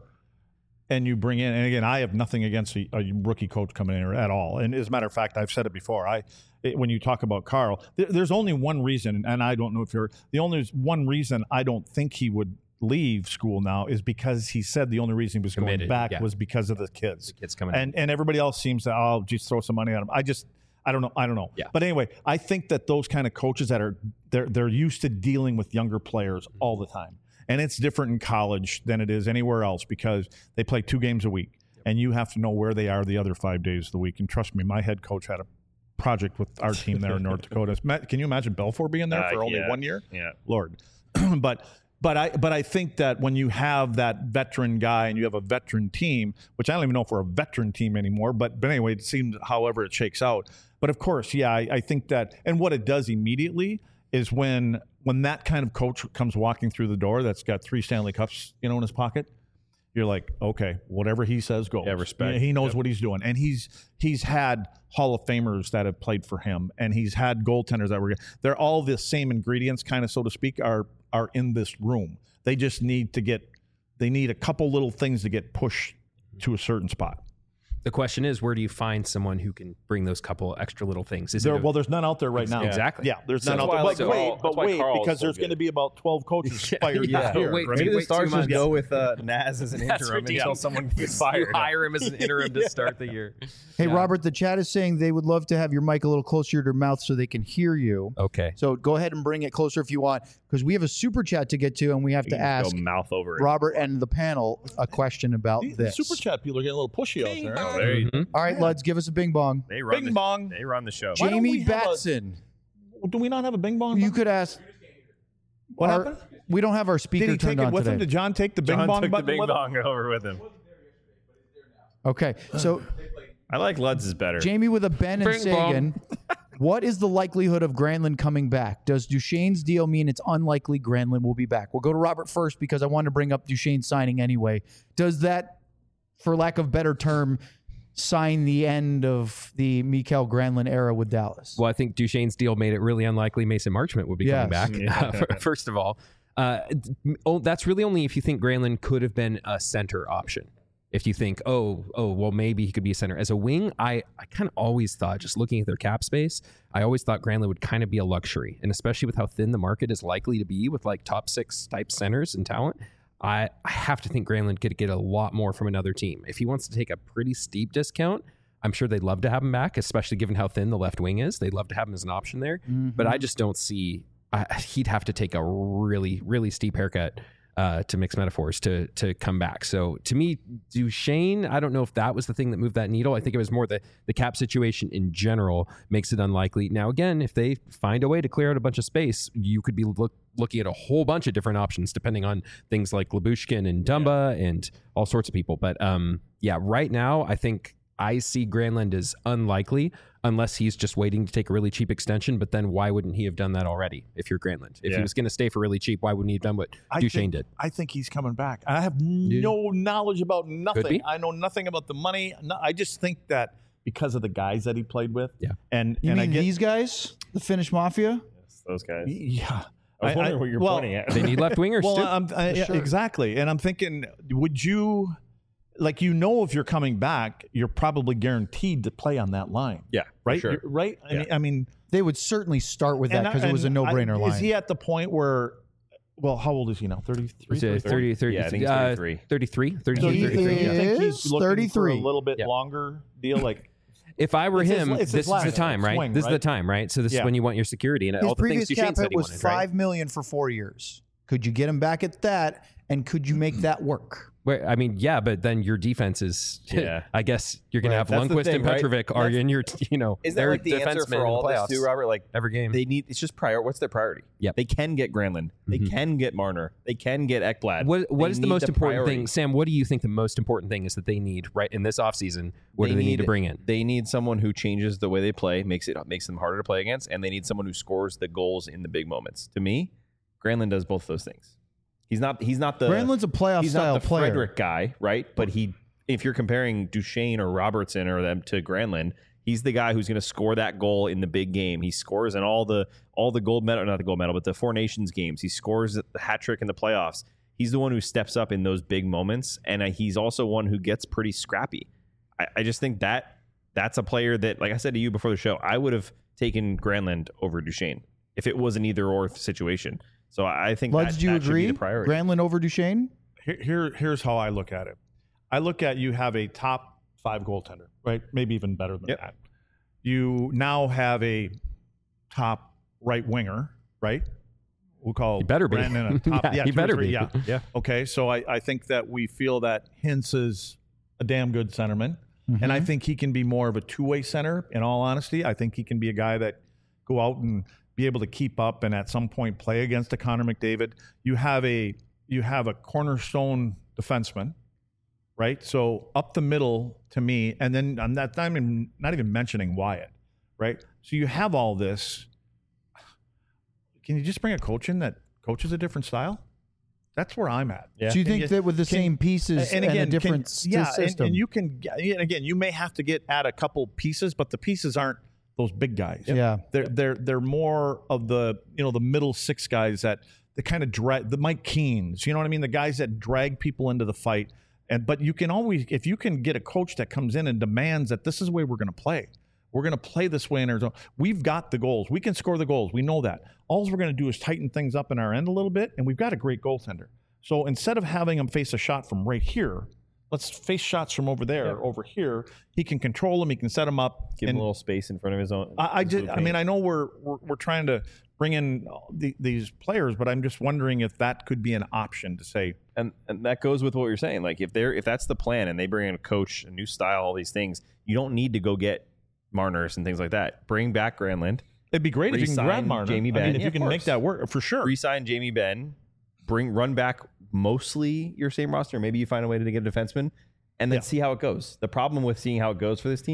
and you bring in, and again, I have nothing against a, a rookie coach coming in at all. And as a matter of fact, I've said it before. I it, when you talk about Carl, there, there's only one reason, and I don't know if you're the only one reason I don't think he would leave school now is because he said the only reason he was Committed, going back yeah. was because of the kids. The kids coming and and everybody else seems to oh just throw some money at him. I just I don't know I don't know. Yeah. But anyway, I think that those kind of coaches that are they're they're used to dealing with younger players all the time, and it's different in college than it is anywhere else because they play two games a week, and you have to know where they are the other five days of the week. And trust me, my head coach had a project with our team there in North Dakota. Ma- Can you imagine Belfour being there Uh, for only yeah. one year? Yeah. Lord. but but I but I think that when you have that veteran guy and you have a veteran team, which I don't even know if we're a veteran team anymore, but but anyway, it seems however it shakes out. But of course, yeah, I, I think that, and what it does immediately is when when that kind of coach comes walking through the door that's got three Stanley Cups, you know, in his pocket, you're like, okay, whatever he says goes. Yeah, respect. He knows Yep. what he's doing, and he's he's had Hall of Famers that have played for him, and he's had goaltenders that were. They're all the same ingredients, kind of so to speak, are are in this room. They just need to get. They need a couple little things to get pushed to a certain spot. The question is, where do you find someone who can bring those couple extra little things? Is There, it a, well, there's none out there right now. Exactly. Yeah, there's So none that's out there. why I But like wait, Carl- but that's why wait, Carl's because so there's good. going to be about twelve coaches fired Yeah. this year. Wait, Maybe the wait Stars two just months. go with uh, Naz as an That's interim until ridiculous. someone gets you fired. hire him as an interim to start the year. Hey, Yeah. Robert, the chat is saying they would love to have your mic a little closer to your mouth so they can hear you. Okay. So go ahead and bring it closer if you want, because we have a super chat to get to, and we have to You can ask go mouth over it. Robert and the panel a question about The this. super chat people are getting a little pushy out there. Oh, there you Mhm. All right, Leds, give us a bing bong. They run Bing the, bong. They run the show. Why don't we Jamie have a- Batson. Do we not have a bing bong? You could ask. What our- happened? We don't have our speaker Did he turned take it on with today. him? Did John take the bing John bong took the button bing with him? bong over with him. Okay, so I like Lutz is better. Jamie with a Ben and Bing bong. Sagan. What is the likelihood of Granlund coming back? Does Duchesne's deal mean it's unlikely Granlund will be back? We'll go to Robert first because I wanted to bring up Duchesne's signing anyway. Does that, for lack of better term, sign the end of the Mikael Granlund era with Dallas? Well, I think Duchesne's deal made it really unlikely Mason Marchment would be Yes. coming back. Yeah. Uh, first of all, uh, oh, that's really only if you think Granlund could have been a center option. If you think, oh, oh, well, maybe he could be a center. As a wing, I, I kind of always thought, just looking at their cap space, I always thought Granlund would kind of be a luxury. And especially with how thin the market is likely to be with like top six type centers and talent, I, I have to think Granlund could get a lot more from another team. If he wants to take a pretty steep discount, I'm sure they'd love to have him back, especially given how thin the left wing is. They'd love to have him as an option there. Mm-hmm. But I just don't see, I, he'd have to take a really, really steep haircut uh, to mix metaphors to to come back. So to me, Duchesne, I don't know if that was the thing that moved that needle. I think it was more the, the cap situation in general makes it unlikely. Now, again, if they find a way to clear out a bunch of space, you could be look, looking at a whole bunch of different options depending on things like Lyubushkin and Dumba yeah. and all sorts of people. But um, yeah, right now, I think I see Granlund as unlikely unless he's just waiting to take a really cheap extension. But then why wouldn't he have done that already if you're Granlund? If Yeah. he was going to stay for really cheap, why wouldn't he have done what I Duchesne think, did? I think he's coming back. I have no knowledge about be. nothing. I know nothing about the money. No, I just think that because of the guys that he played with. Yeah. And You and mean I get, these guys? The Finnish Mafia? Yes, those guys. yeah. I was I- wondering I- what you're well, pointing at. They need left wingers Well, too. I'm, I, yeah, Sure. exactly. And I'm thinking, would you, like, you know, if you're coming back, you're probably guaranteed to play on that line. Yeah, for Right? sure. You're- right? I Yeah. mean, I mean, They would certainly start with that and- because it was a and no-brainer I- line. Is he at the point where, well, how old is he now? thirty-three? Was it thirty-four? thirty, thirty, Yeah, I think he's uh, thirty-three. thirty-three, So thirty-two, you, thirty-three, you yeah. think he's is looking thirty-three. for a little bit Yeah. longer deal? Like, If I were It's his- him, it's his this is last the time, right? swing, this is the right? time, right? So this Yeah. is when you want your security and His all the previous things cap Duchesne said hit he was wanted, five right? million for four years. Could you get him back at that? And could you make that work? Where, I mean, yeah, but then your defense is, Yeah. I guess you're going Right. to have That's the Lundqvist thing, and right? Petrovic are That's- in your, you know, Isn't that they're like the answer defensemen for in the all this playoffs too, Robert? Like every game. they need. It's just prior. What's their priority? Yep. They can get Granlund. They Mhm. can get Marner. They can get Ekblad. What What They is the need most important priority. thing, Sam? What do you think the most important thing is that they need right in this offseason? What do they need to bring in? They need someone who changes the way they play, makes it makes them harder to play against, and they need someone who scores the goals in the big moments. To me, Granlund does both those things. He's not. He's not the. Brandon's a playoff he's style not the player. Frederick guy, right? But he, if you're comparing Duchesne or Robertson or them to Granlund, he's the guy who's going to score that goal in the big game. He scores in all the all the gold medal, not the gold medal, but the Four Nations games. He scores the hat trick in the playoffs. He's the one who steps up in those big moments, and uh, he's also one who gets pretty scrappy. I, I just think that that's a player that, like I said to you before the show, I would have taken Granlund over Duchesne if it was an either or situation. So I think Luds, that, do you that should be agree? the priority. Granlund over Duchesne? here, here, here's how I look at it. I look at you have a top five goaltender, right? Maybe even better than Yep. that. You now have a top right winger, right? We'll call He better be. Brandon a top. Yeah, yeah, he two or better three, be. Yeah. Yeah. Okay, so I, I think that we feel that Hintz is a damn good centerman, and I think he can be more of a two-way center. In all honesty, I think he can be a guy that go out and be able to keep up and at some point play against a Connor McDavid. You have a you have a cornerstone defenseman, right? So up the middle to me, and then I'm not, not even not even mentioning Wyatt, right? So you have all this. Can you just bring a coach in that coaches a different style? That's where I'm at. Yeah. Do you And think you- that with the can- same pieces and, a different can, yeah, and- system? And, you can and again, you may have to get at a couple pieces, but the pieces aren't those big guys. yeah. They're they're they're more of the you know the middle six guys that the kind of drag the Mike Keens, you know what I mean? The guys that drag people into the fight. And but you can always if you can get a coach that comes in and demands that this is the way we're going to play. We're going to play this way in Arizona. We've got the goals. We can score the goals. We know that. All we're going to do is tighten things up in our end a little bit, and we've got a great goaltender. So instead of having him face a shot from right here, let's face shots from over there, Yeah. over here. He can control them. He can set them up. Give him and a little space in front of his own. I, I his just, blue I mean, paint. I know we're we're, we're trying to bring in the, these players, but I'm just wondering if that could be an option to say, and and that goes with what you're saying. Like if they're if that's the plan and they bring in a coach, a new style, all these things, you don't need to go get Marners and things like that. Bring back Granlund, it'd be great if you can Re-sign grab Marner. Jamie I Benn. mean, if Yeah, you of can make course. that work for sure. re-sign Jamie Benn, bring run back mostly your same roster. Maybe you find a way to get a defenseman, and then Yeah. see how it goes. The problem with seeing how it goes for this team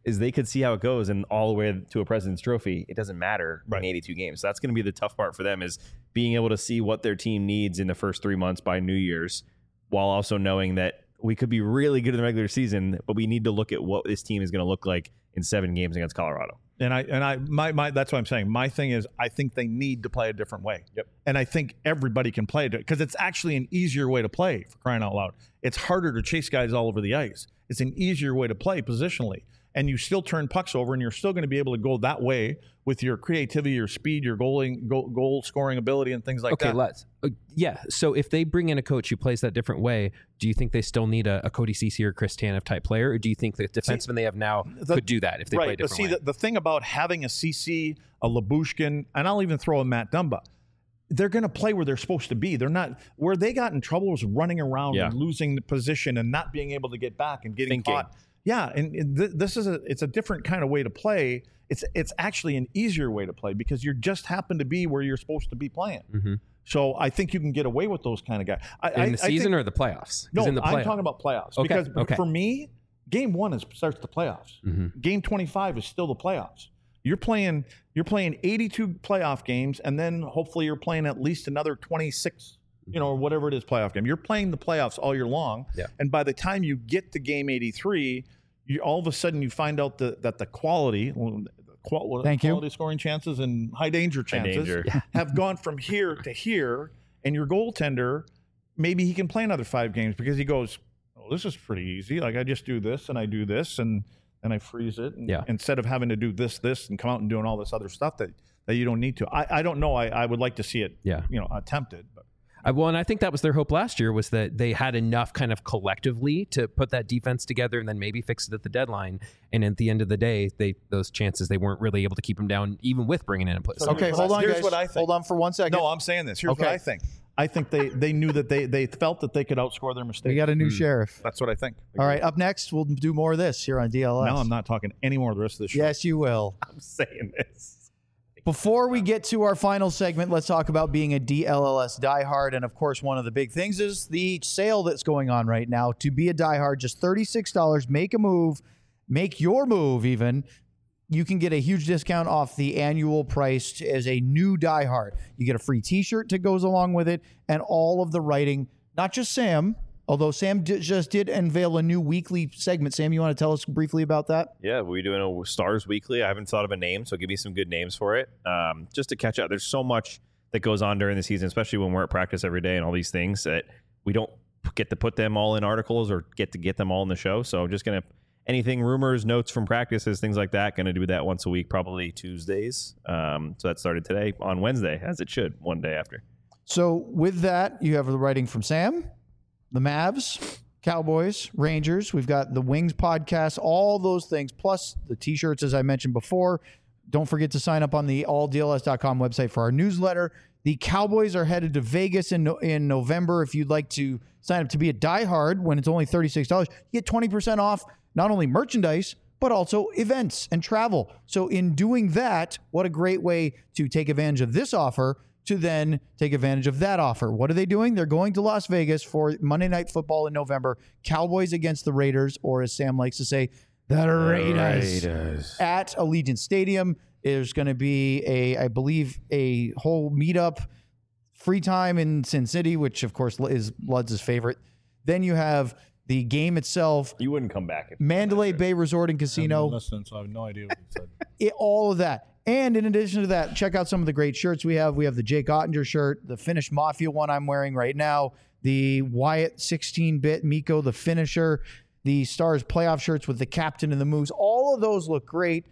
is they could see how it goes, and all the way to a President's Trophy, it doesn't matter Right. in eighty-two games. So that's going to be the tough part for them, is being able to see what their team needs in the first three months by New Year's, while also knowing that we could be really good in the regular season, but we need to look at what this team is going to look like in seven games against Colorado. And I and I my my that's what I'm saying. My thing is, I think they need to play a different way. Yep. And I think everybody can play it because it's actually an easier way to play, for crying out loud. It's harder to chase guys all over the ice. It's an easier way to play positionally. And you still turn pucks over, and you're still going to be able to go that way with your creativity, your speed, your goaling, goal, goal scoring ability, and things like okay, that. let's. Uh, yeah. So if they bring in a coach who plays that different way, do you think they still need a, a Cody Ceci or Chris Tanev type player, or do you think the defensemen they have now the- could do that if they right, play a but different see, way? the, the thing about having a C C, a Labushkin, and I'll even throw a Matt Dumba, they're going to play where they're supposed to be. They're not where they got in trouble was running around Yeah. and losing the position and not being able to get back and getting Thinking. caught. Yeah, and, and th- this is a it's a different kind of way to play. It's it's actually an easier way to play because you just happen to be where you're supposed to be playing. Mhm. So I think you can get away with those kind of guys. I, in I, the I season think, or the playoffs? 'Cause no, in the I'm playoff- talking about playoffs Okay, because okay. for me, game one is starts the playoffs. Mhm. Game twenty-five is still the playoffs. You're playing you're playing eighty-two playoff games, and then hopefully you're playing at least another twenty-six, you know, or whatever it is playoff game. You're playing the playoffs all year long. Yeah. And by the time you get to game eighty-three, you all of a sudden you find out that that the quality, well, the qual- what are Thank the you. quality scoring chances and high danger High chances danger. have gone from here to here, and your goaltender, maybe he can play another five games because he goes, oh, this is pretty easy. Like I just do this and I do this and and I freeze it. And Yeah. instead of having to do this, this, and come out and doing all this other stuff that, that you don't need to. I, I don't know. I, I would like to see it, Yeah. you know, attempted. But I, well, and I think that was their hope last year, was that they had enough kind of collectively to put that defense together and then maybe fix it at the deadline. And at the end of the day, they those chances, they weren't really able to keep them down, even with bringing in a place. So Okay, here's hold what I- on, here's guys. what I think. Hold on for one second. no, I'm saying this. Here's Okay. what I think. I think they, they knew that they, they felt that they could outscore their mistakes. We got a new sheriff. That's what I think. All right, up next, we'll do more of this here on D L S. Now I'm not talking any more of the rest of this show. Yes, you will. I'm saying this. Before we get to our final segment, let's talk about being a D L L S diehard. And of course, one of the big things is the sale that's going on right now. To be a diehard, just thirty-six dollars. Make a move, make your move even. You can get a huge discount off the annual price as a new diehard. You get a free t-shirt that goes along with it and all of the writing, not just Sam, although Sam d- just did unveil a new weekly segment. Sam, you want to tell us briefly about that? Yeah, we're doing a Stars Weekly. I haven't thought of a name, so give me some good names for it. Um, just to catch up, there's so much that goes on during the season, especially when we're at practice every day and all these things that we don't get to put them all in articles or get to get them all in the show. So I'm just going to, anything, rumors, notes from practices, things like that, going to do that once a week, probably Tuesdays. Um, so that started today on Wednesday, as it should, one day after. So with that, you have the writing from Sam, the Mavs, Cowboys, Rangers. We've got the Wings podcast, all those things, plus the T-shirts, as I mentioned before. Don't forget to sign up on the all D L S dot com website for our newsletter. The Cowboys are headed to Vegas in no- in November. If you'd like to sign up to be a diehard when it's only thirty-six dollars, you get twenty percent off not only merchandise, but also events and travel. So in doing that, what a great way to take advantage of this offer to then take advantage of that offer. What are they doing? They're going to Las Vegas for Monday Night Football in November. Cowboys against the Raiders, or as Sam likes to say, the Raiders. Raiders. At Allegiant Stadium. There's going to be a, I believe, a whole meetup, free time in Sin City, which of course is Ludz's favorite. Then you have the game itself, You wouldn't come back. If Mandalay Bay Resort and I haven't Casino, listened, so I have no idea what he said. it, all of that. And in addition to that, check out some of the great shirts we have. We have the Jake Ottinger shirt, the Finnish Mafia one I'm wearing right now, the Wyatt sixteen-bit Miko, the finisher, the Stars playoff shirts with the captain and the moves. All of those look great.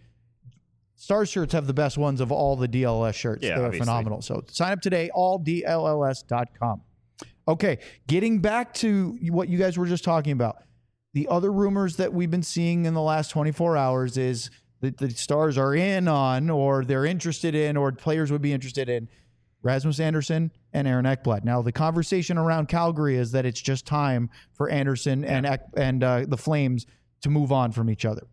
Stars shirts have the best ones of all the D L S shirts. Yeah, They're obviously. phenomenal. So sign up today, all D L L S dot com. Okay, getting back to what you guys were just talking about. The other rumors that we've been seeing in the last twenty-four hours is that the Stars are in on, or they're interested in, or players would be interested in Rasmus Andersson and Aaron Ekblad. Now, the conversation around Calgary is that it's just time for Andersson and Ek, and uh, the Flames to move on from each other.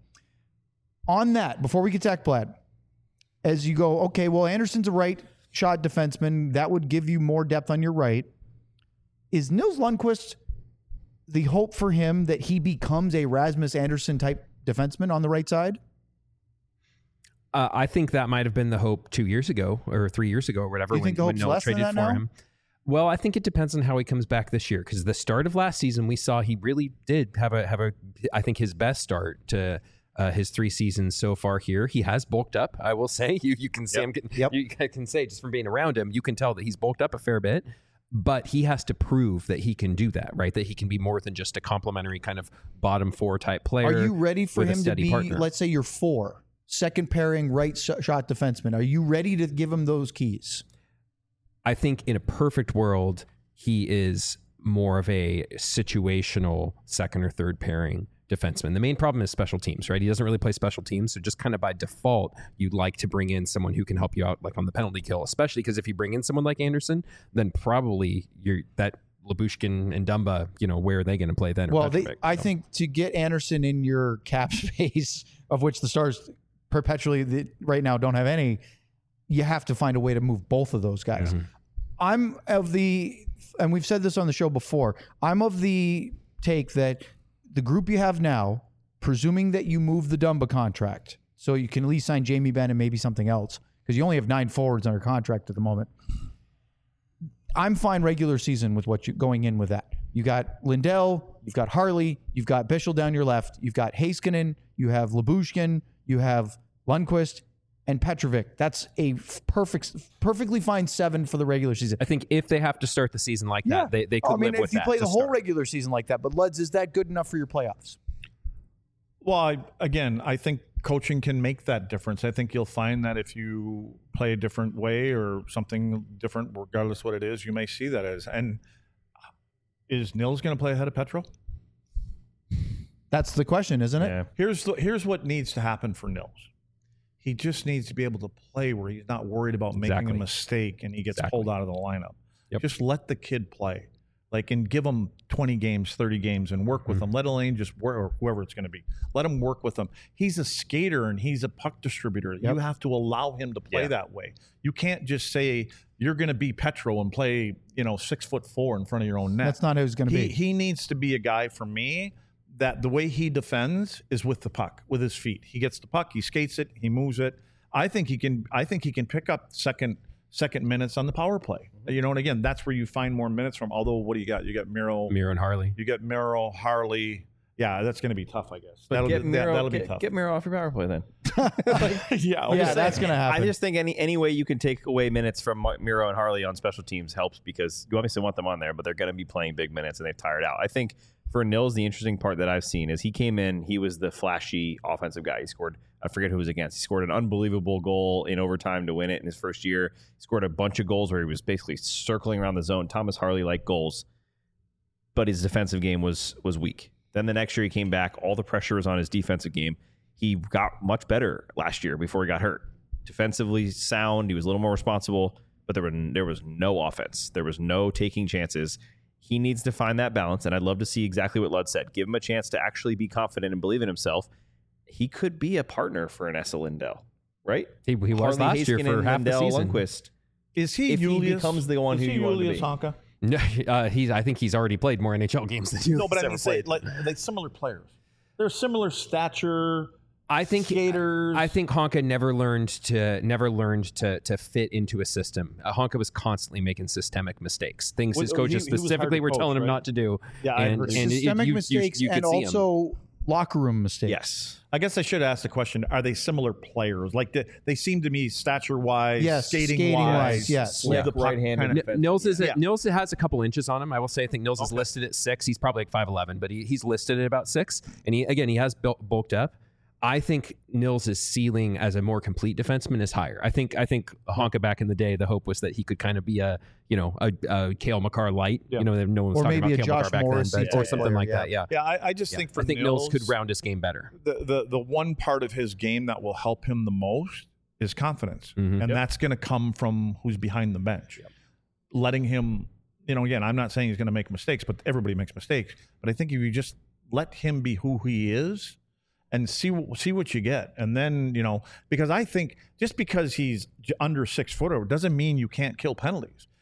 On that, before we get to Ekblad, as you go, okay, well, Anderson's a right shot defenseman. That would give you more depth on your right. Is Nils Lundqvist the hope for him that he becomes a Rasmus Andersson type defenseman on the right side? Uh, I think that might have been the hope two years ago or three years ago or whatever. You think the when, when hope's Noah less than traded that for now? him. Well, I think it depends on how he comes back this year. Because the start of last season, we saw he really did have a have a. I think his best start to uh, his three seasons so far here. He has bulked up. I will say you you can see Yep. him. Yep. You can say just from being around him, you can tell that he's bulked up a fair bit. But he has to prove that he can do that, right? That he can be more than just a complimentary kind of bottom four type player. Are you ready for with a him to steady be, partner. let's say you're four, second pairing right sh- shot defenseman? Are you ready to give him those keys? I think in a perfect world, he is more of a situational second or third pairing defenseman. The main problem is special teams, right? He doesn't really play special teams. So just kind of by default, you'd like to bring in someone who can help you out like on the penalty kill, especially because if you bring in someone like Anderson, then probably you're that Lyubushkin and Dumba, you know, where are they going to play then? or Well, they, Petrovic? I So- think to get Anderson in your cap space, of which the Stars perpetually the, right now don't have any, you have to find a way to move both of those guys. Mhm. I'm of the, and we've said this on the show before, I'm of the take that the group you have now, presuming that you move the Dumba contract, so you can at least sign Jamie Benn and maybe something else, because you only have nine forwards under contract at the moment. I'm fine regular season with what you going in with that. You got Lindell, you've got Harley, you've got Bischel down your left, you've got Heiskanen, you have Lyubushkin, you have Lundqvist, and Petrovic. That's a f- perfect, perfectly fine seven for the regular season. I think if they have to start the season like that, they, they could I mean, live with if you that play to the whole start. regular season like that, but Luds, is that good enough for your playoffs? Well, I, again, I think coaching can make that difference. I think you'll find that if you play a different way or something different, regardless what it is, you may see that as. And is Nils going to play ahead of Petro? That's the question, isn't it? Yeah. Here's the, here's what needs to happen for Nils. He just needs to be able to play where he's not worried about making Exactly. a mistake and he gets Exactly. pulled out of the lineup. Yep. Just let the kid play. Like, and give him twenty games, thirty games, and work with Mm-hmm. him. Let Elaine just work, or whoever it's going to be. Let him work with him. He's a skater and he's a puck distributor. Yep. You have to allow him to play Yeah. that way. You can't just say you're going to be Petro and play, you know, six foot four in front of your own net. That's not who he's going to he, be. he needs to be a guy for me that the way he defends is with the puck, with his feet. He gets the puck, he skates it, he moves it. I think he can. I think he can pick up second second minutes on the power play. You know, and again, that's where you find more minutes from. Although, what do you got? You got Miro, Miro and Harley. you got Miro, Harley. Yeah, that's going to be tough, I guess. But That'll get be, Miro, that, will get, be tough. get Miro off your power play then. yeah, yeah, that's going to happen. I just think any any way you can take away minutes from Miro and Harley on special teams helps, because you obviously want them on there, but they're going to be playing big minutes and they've tired out. I think for Nils, the interesting part that I've seen is he came in, he was the flashy offensive guy. He scored, I forget who he was against. He scored an unbelievable goal in overtime to win it in his first year. He scored a bunch of goals where he was basically circling around the zone. Thomas Harley liked goals, but his defensive game was was weak. Then the next year he came back. All the pressure was on his defensive game. He got much better last year before he got hurt. Defensively sound. He was a little more responsible, but there were there was no offense. There was no taking chances. He needs to find that balance, and I'd love to see exactly what Lud said. Give him a chance to actually be confident and believe in himself. He could be a partner for an Essa Lindell, right? He, he was Harley last year Heiskanen, for half the Lindell, season. Lundqvist. Is he If he Julius? becomes the one is who he you want him to Julius be. Honka? No, uh, he's. I think he's already played more N H L games than you. No, but I mean, say like like similar players. They're similar stature. I think skaters. I think Honka never learned to never learned to to fit into a system. Uh, Honka was constantly making systemic mistakes, things Well, his he- coaches he was hard specifically to were coach, telling him right? not to do. Yeah, I and, heard and it- Systemic you, you- mistakes you could and see 'em. also locker room mistakes. Yes. I guess I should ask the question: are they similar players? Like they, they seem to me, stature wise, Yes, skating, skating-wise, wise, yes. with Yeah. the puck Right-handed kinda- defense. N- Nils is Yeah. a, Nils has a couple inches on him. I will say I think Nils is Okay. listed at six. He's probably like five eleven, but he, he's listed at about six. And he again he has built, bulked up. I think Nils' ceiling as a more complete defenseman is higher. I think I think Honka back in the day, the hope was that he could kind of be a you know a, a Cale Makar light. Yeah. You know, no one was Or talking maybe about a Cale Josh Makar back Morrissey then, but, or type something player, like yeah. that. Yeah, Yeah, I, I just Yeah. think for I think Nils, Nils could round his game better. the, the the one part of his game that will help him the most is confidence, Mhm. and Yep. that's going to come from who's behind the bench, letting him. You know, again, I'm not saying he's going to make mistakes, but everybody makes mistakes. But I think if you just let him be who he is, and see see what you get, and then you know, because I think just because he's j- under six footer doesn't mean you can't kill penalties.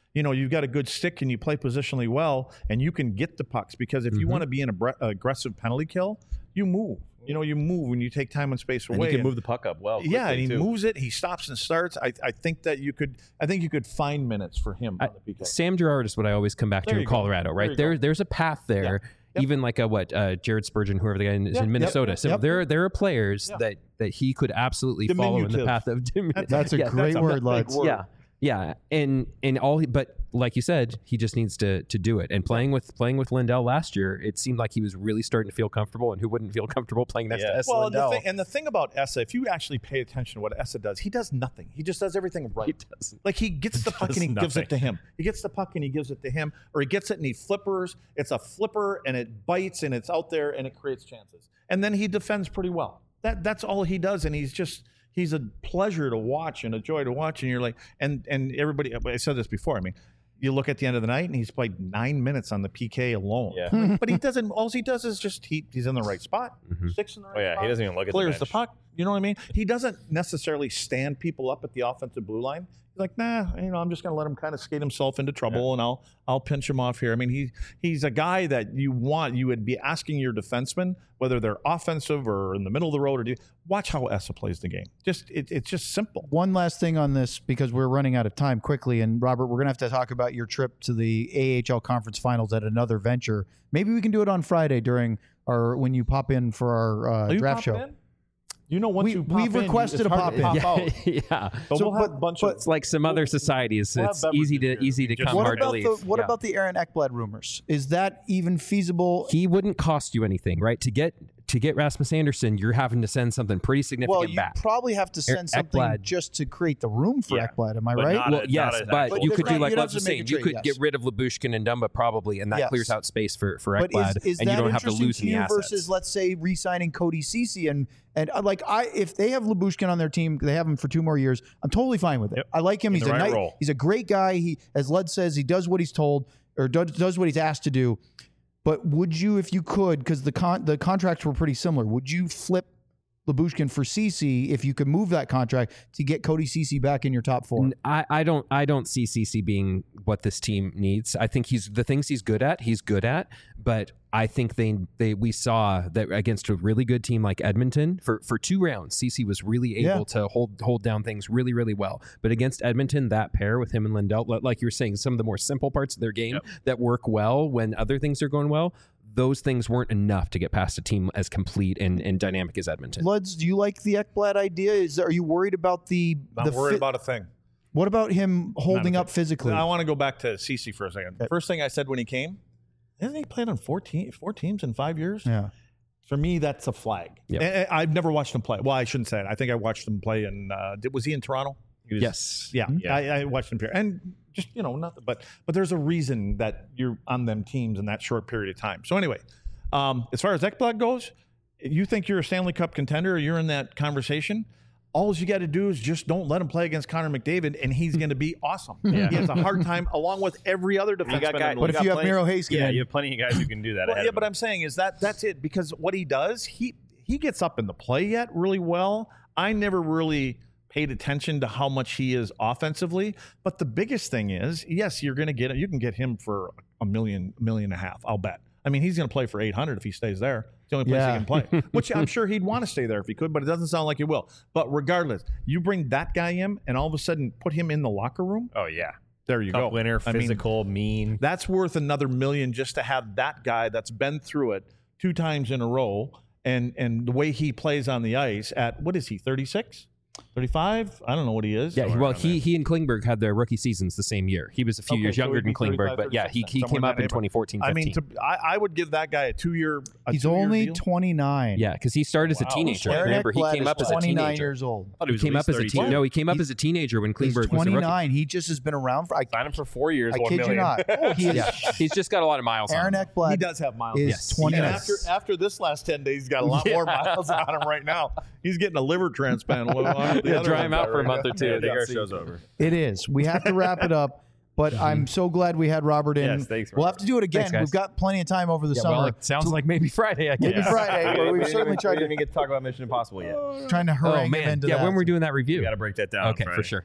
you know, you've got a good stick and you play positionally well, and you can get the pucks. Because if you Mm-hmm. want to be an abra- aggressive penalty kill, you move. You know, you move when you take time and space away. And you can and- move the puck up well. yeah, and he quickly, too. moves it. He stops and starts. I, I think that you could. I think you could find minutes for him I- on the P K. Sam Girard is what I always come back There to you in go. Colorado, There right? you There, go. there's a path there. Yep. Even like a what uh, Jared Spurgeon, whoever the guy is Yep, in yep, Minnesota. So yep. there, there are players Yeah. that that he could absolutely follow in the Diminutive. path of. Diminu- That's a Yeah, great a word, big Lutz. word. Yeah, yeah, and and all, he, but like you said, he just needs to to do it. And playing with playing with Lindell last year, it seemed like he was really starting to feel comfortable. And who wouldn't feel comfortable playing next Yeah. to S. Well, and the, Lindell? thing, and the thing about Essa, if you actually pay attention to what Essa does, he does nothing. He just does everything right. He doesn't. Like he gets the puck Does and he gives nothing. it to him. He gets the puck and he gives it to him, or he gets it and he flippers. It's a flipper and it bites and it's out there and it creates chances. And then he defends pretty well. That that's all he does, and he's just he's a pleasure to watch and a joy to watch. And you're like, and and everybody, I said this before. I mean, you look at the end of the night and he's played nine minutes on the P K alone. Yeah. But he doesn't. All he does is just he he's in the right spot. Mhm. Sticks in the right Oh yeah, spot. he doesn't even look at Clears the, the bench. puck. You know what I mean? He doesn't necessarily stand people up at the offensive blue line. He's like, nah, you know, I'm just going to let him kind of skate himself into trouble, and I'll I'll pinch him off here. I mean, he he's a guy that you want. You would be asking your defensemen, whether they're offensive or in the middle of the road, or do watch how Essa plays the game. Just it, it's just simple. One last thing on this, because we're running out of time quickly. And Robert, we're going to have to talk about your trip to the A H L conference finals at another venture. Maybe we can do it on Friday during our, when you pop in for our uh, Are you draft show. popping in? You know, once We- you pop we've in, requested it's a hard to pop in. pop out. yeah. But So, we'll have but- a bunch but- of It's like some other societies. We'll have It's easy to beverages here. easy to Just- come, What hard to about leave. the what Yeah. about the Aaron Ekblad rumors? Is that even feasible? He wouldn't cost you anything, right? To get to get Rasmus Anderson, you're having to send something pretty significant Well, you back. probably have to send Ek- something Ekblad. just to create the room for Yeah. Ekblad. Am I But right? not Well, a- yes, not a- but But you there's could not- do like you'd have Lutz to was make saying. a You trade, could yes. get rid of Labushkin and Dumba probably, and that Yes. clears out space for for But Ekblad, is, is and that you don't have to interesting lose to any you assets. versus, let's say, re-signing Cody Ceci and and uh, like I, if they have Labushkin on their team, they have him for two more years. I'm totally fine with it. Yep. I like him. In He's the a right nice, role. he's a great guy. He, as Lud says, he does what he's told or does, does what he's asked to do. But would you, if you could, because the con- the contracts were pretty similar, would you flip Labushkin for Ceci if you could move that contract to get Cody Ceci back in your top four? N- I, I don't I don't see C C being what this team needs. I think he's the things he's good at, he's good at, but I think they they we saw that against a really good team like Edmonton for, for two rounds, C C was really able Yeah. to hold hold down things really, really well. But against Edmonton, that pair with him and Lindell, li- like you were saying, some of the more simple parts of their game Yep. that work well when other things are going well, those things weren't enough to get past a team as complete and, and dynamic as Edmonton. Luds, do you like the Ekblad idea? Is are you worried about the Not the worried fi- about a thing. what about him holding Not a up physically? I want to go back to Ceci for a second. First thing I said when he came, hasn't he played on four, te- four teams in five years? Yeah. For me, that's a flag. Yep. And- and I've never watched him play. Well, I shouldn't say it. I think I watched him play in. Uh, did- was he in Toronto? He was- Yes. Yeah, Yeah. I, I watched him here, and just you know nothing. But but there's a reason that you're on them teams in that short period of time. So anyway, um, as far as Ekblad goes, you think you're a Stanley Cup contender, or you're in that conversation. All you got to do is just don't let him play against Connor McDavid, and he's going to be awesome. Yeah. He has a hard time, along with every other defenseman. You got in guys, the But league. if you have Miro Heiskanen- yeah, you have plenty of guys who can do that. Well, ahead yeah, of but him. I'm saying is that that's it because what he does, he he gets up in the play yet really well. I never really paid attention to how much he is offensively, but the biggest thing is, yes, you're going to get you can get him for a million, million and a half. I'll bet. I mean, he's going to play for eight hundred if he stays there. It's the only place Yeah. he can play, which I'm sure he'd want to stay there if he could, but it doesn't sound like he will. But regardless, you bring that guy in and all of a sudden put him in the locker room. oh yeah, There you Cup go. winner, I mean, physical, mean. that's worth another million just to have that guy that's been through it two times in a row, and and the way he plays on the ice at what is he thirty-six, thirty-five? I don't know what he is. Yeah, Somewhere well, around he there. he and Klingberg had their rookie seasons the same year. He was a few Okay, years so younger he'd than be Klingberg, thirty-five, but yeah, he thirty-six he then, came somewhere up in in that twenty fourteen. I mean, to, I, I would give that guy a two-year. A He's two-year only deal. twenty-nine. Yeah, because he started as a Wow. teenager. Aaron Remember, he Ekblad came is up as a twenty-nine teenager. years old. thought he was He came at up least as a teen. thirty-two. No, he came up He's- as a teenager when He's Klingberg was a rookie. twenty-nine. He just has been around for. I, Sign him for four years. I one kid you million. not. Oh, he is, Yeah, he's just got a lot of miles Aaron on him. Ekblad He does have miles. is Yes. twenty-nine. And after after this last ten days, he's got a lot Yeah. more miles on him right now. He's getting a liver transplant. Well, the Yeah, other dry one's him out for a right month or now. two. Yeah, I They think got our to- show's over. It is. We have to wrap it up. But I'm so glad we had Robert in. Yes, thanks, We'll have Robert. to do it again. Thanks, guys. We've got plenty of time over the Yeah, summer. well, it sounds like maybe Friday. I guess. Maybe Friday, but we've didn't certainly even- tried we to didn't even get to talk about Mission Impossible yet. trying to Oh harangue him man, into yeah. that. When we're doing that review. We got to break that down. Okay, Friday. for sure.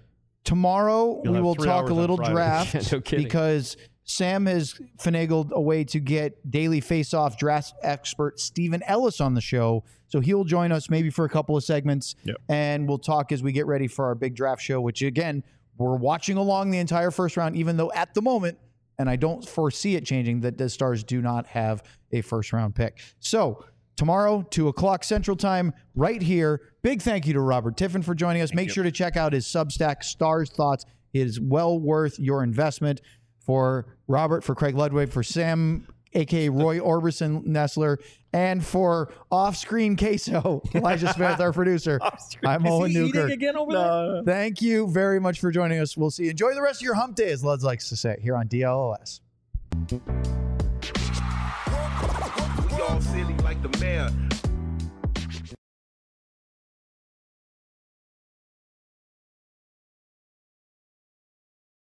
tomorrow You'll we have will three talk hours a on little Friday. draft Yeah, no kidding. because Sam has finagled a way to get Daily Face-Off draft expert Stephen Ellis on the show. So he'll join us maybe for a couple of segments, Yep. and we'll talk as we get ready for our big draft show, which, again, we're watching along the entire first round, even though at the moment, and I don't foresee it changing, that the Stars do not have a first-round pick. So tomorrow, two o'clock Central Time, right here. Big thank you to Robert Tiffin for joining us. Thank Make you. sure to check out his Substack, Stars Thoughts. It is well worth your investment. For Robert, for Craig Ludwig, for Sam, a k a. Roy Orbison Nestler, and for off-screen queso, Elijah Smith, our producer. I'm Owen Newkirk. again over No. Thank you very much for joining us. We'll see you. Enjoy the rest of your hump day, as Lud likes to say, here on D L O S. We all silly like the mayor.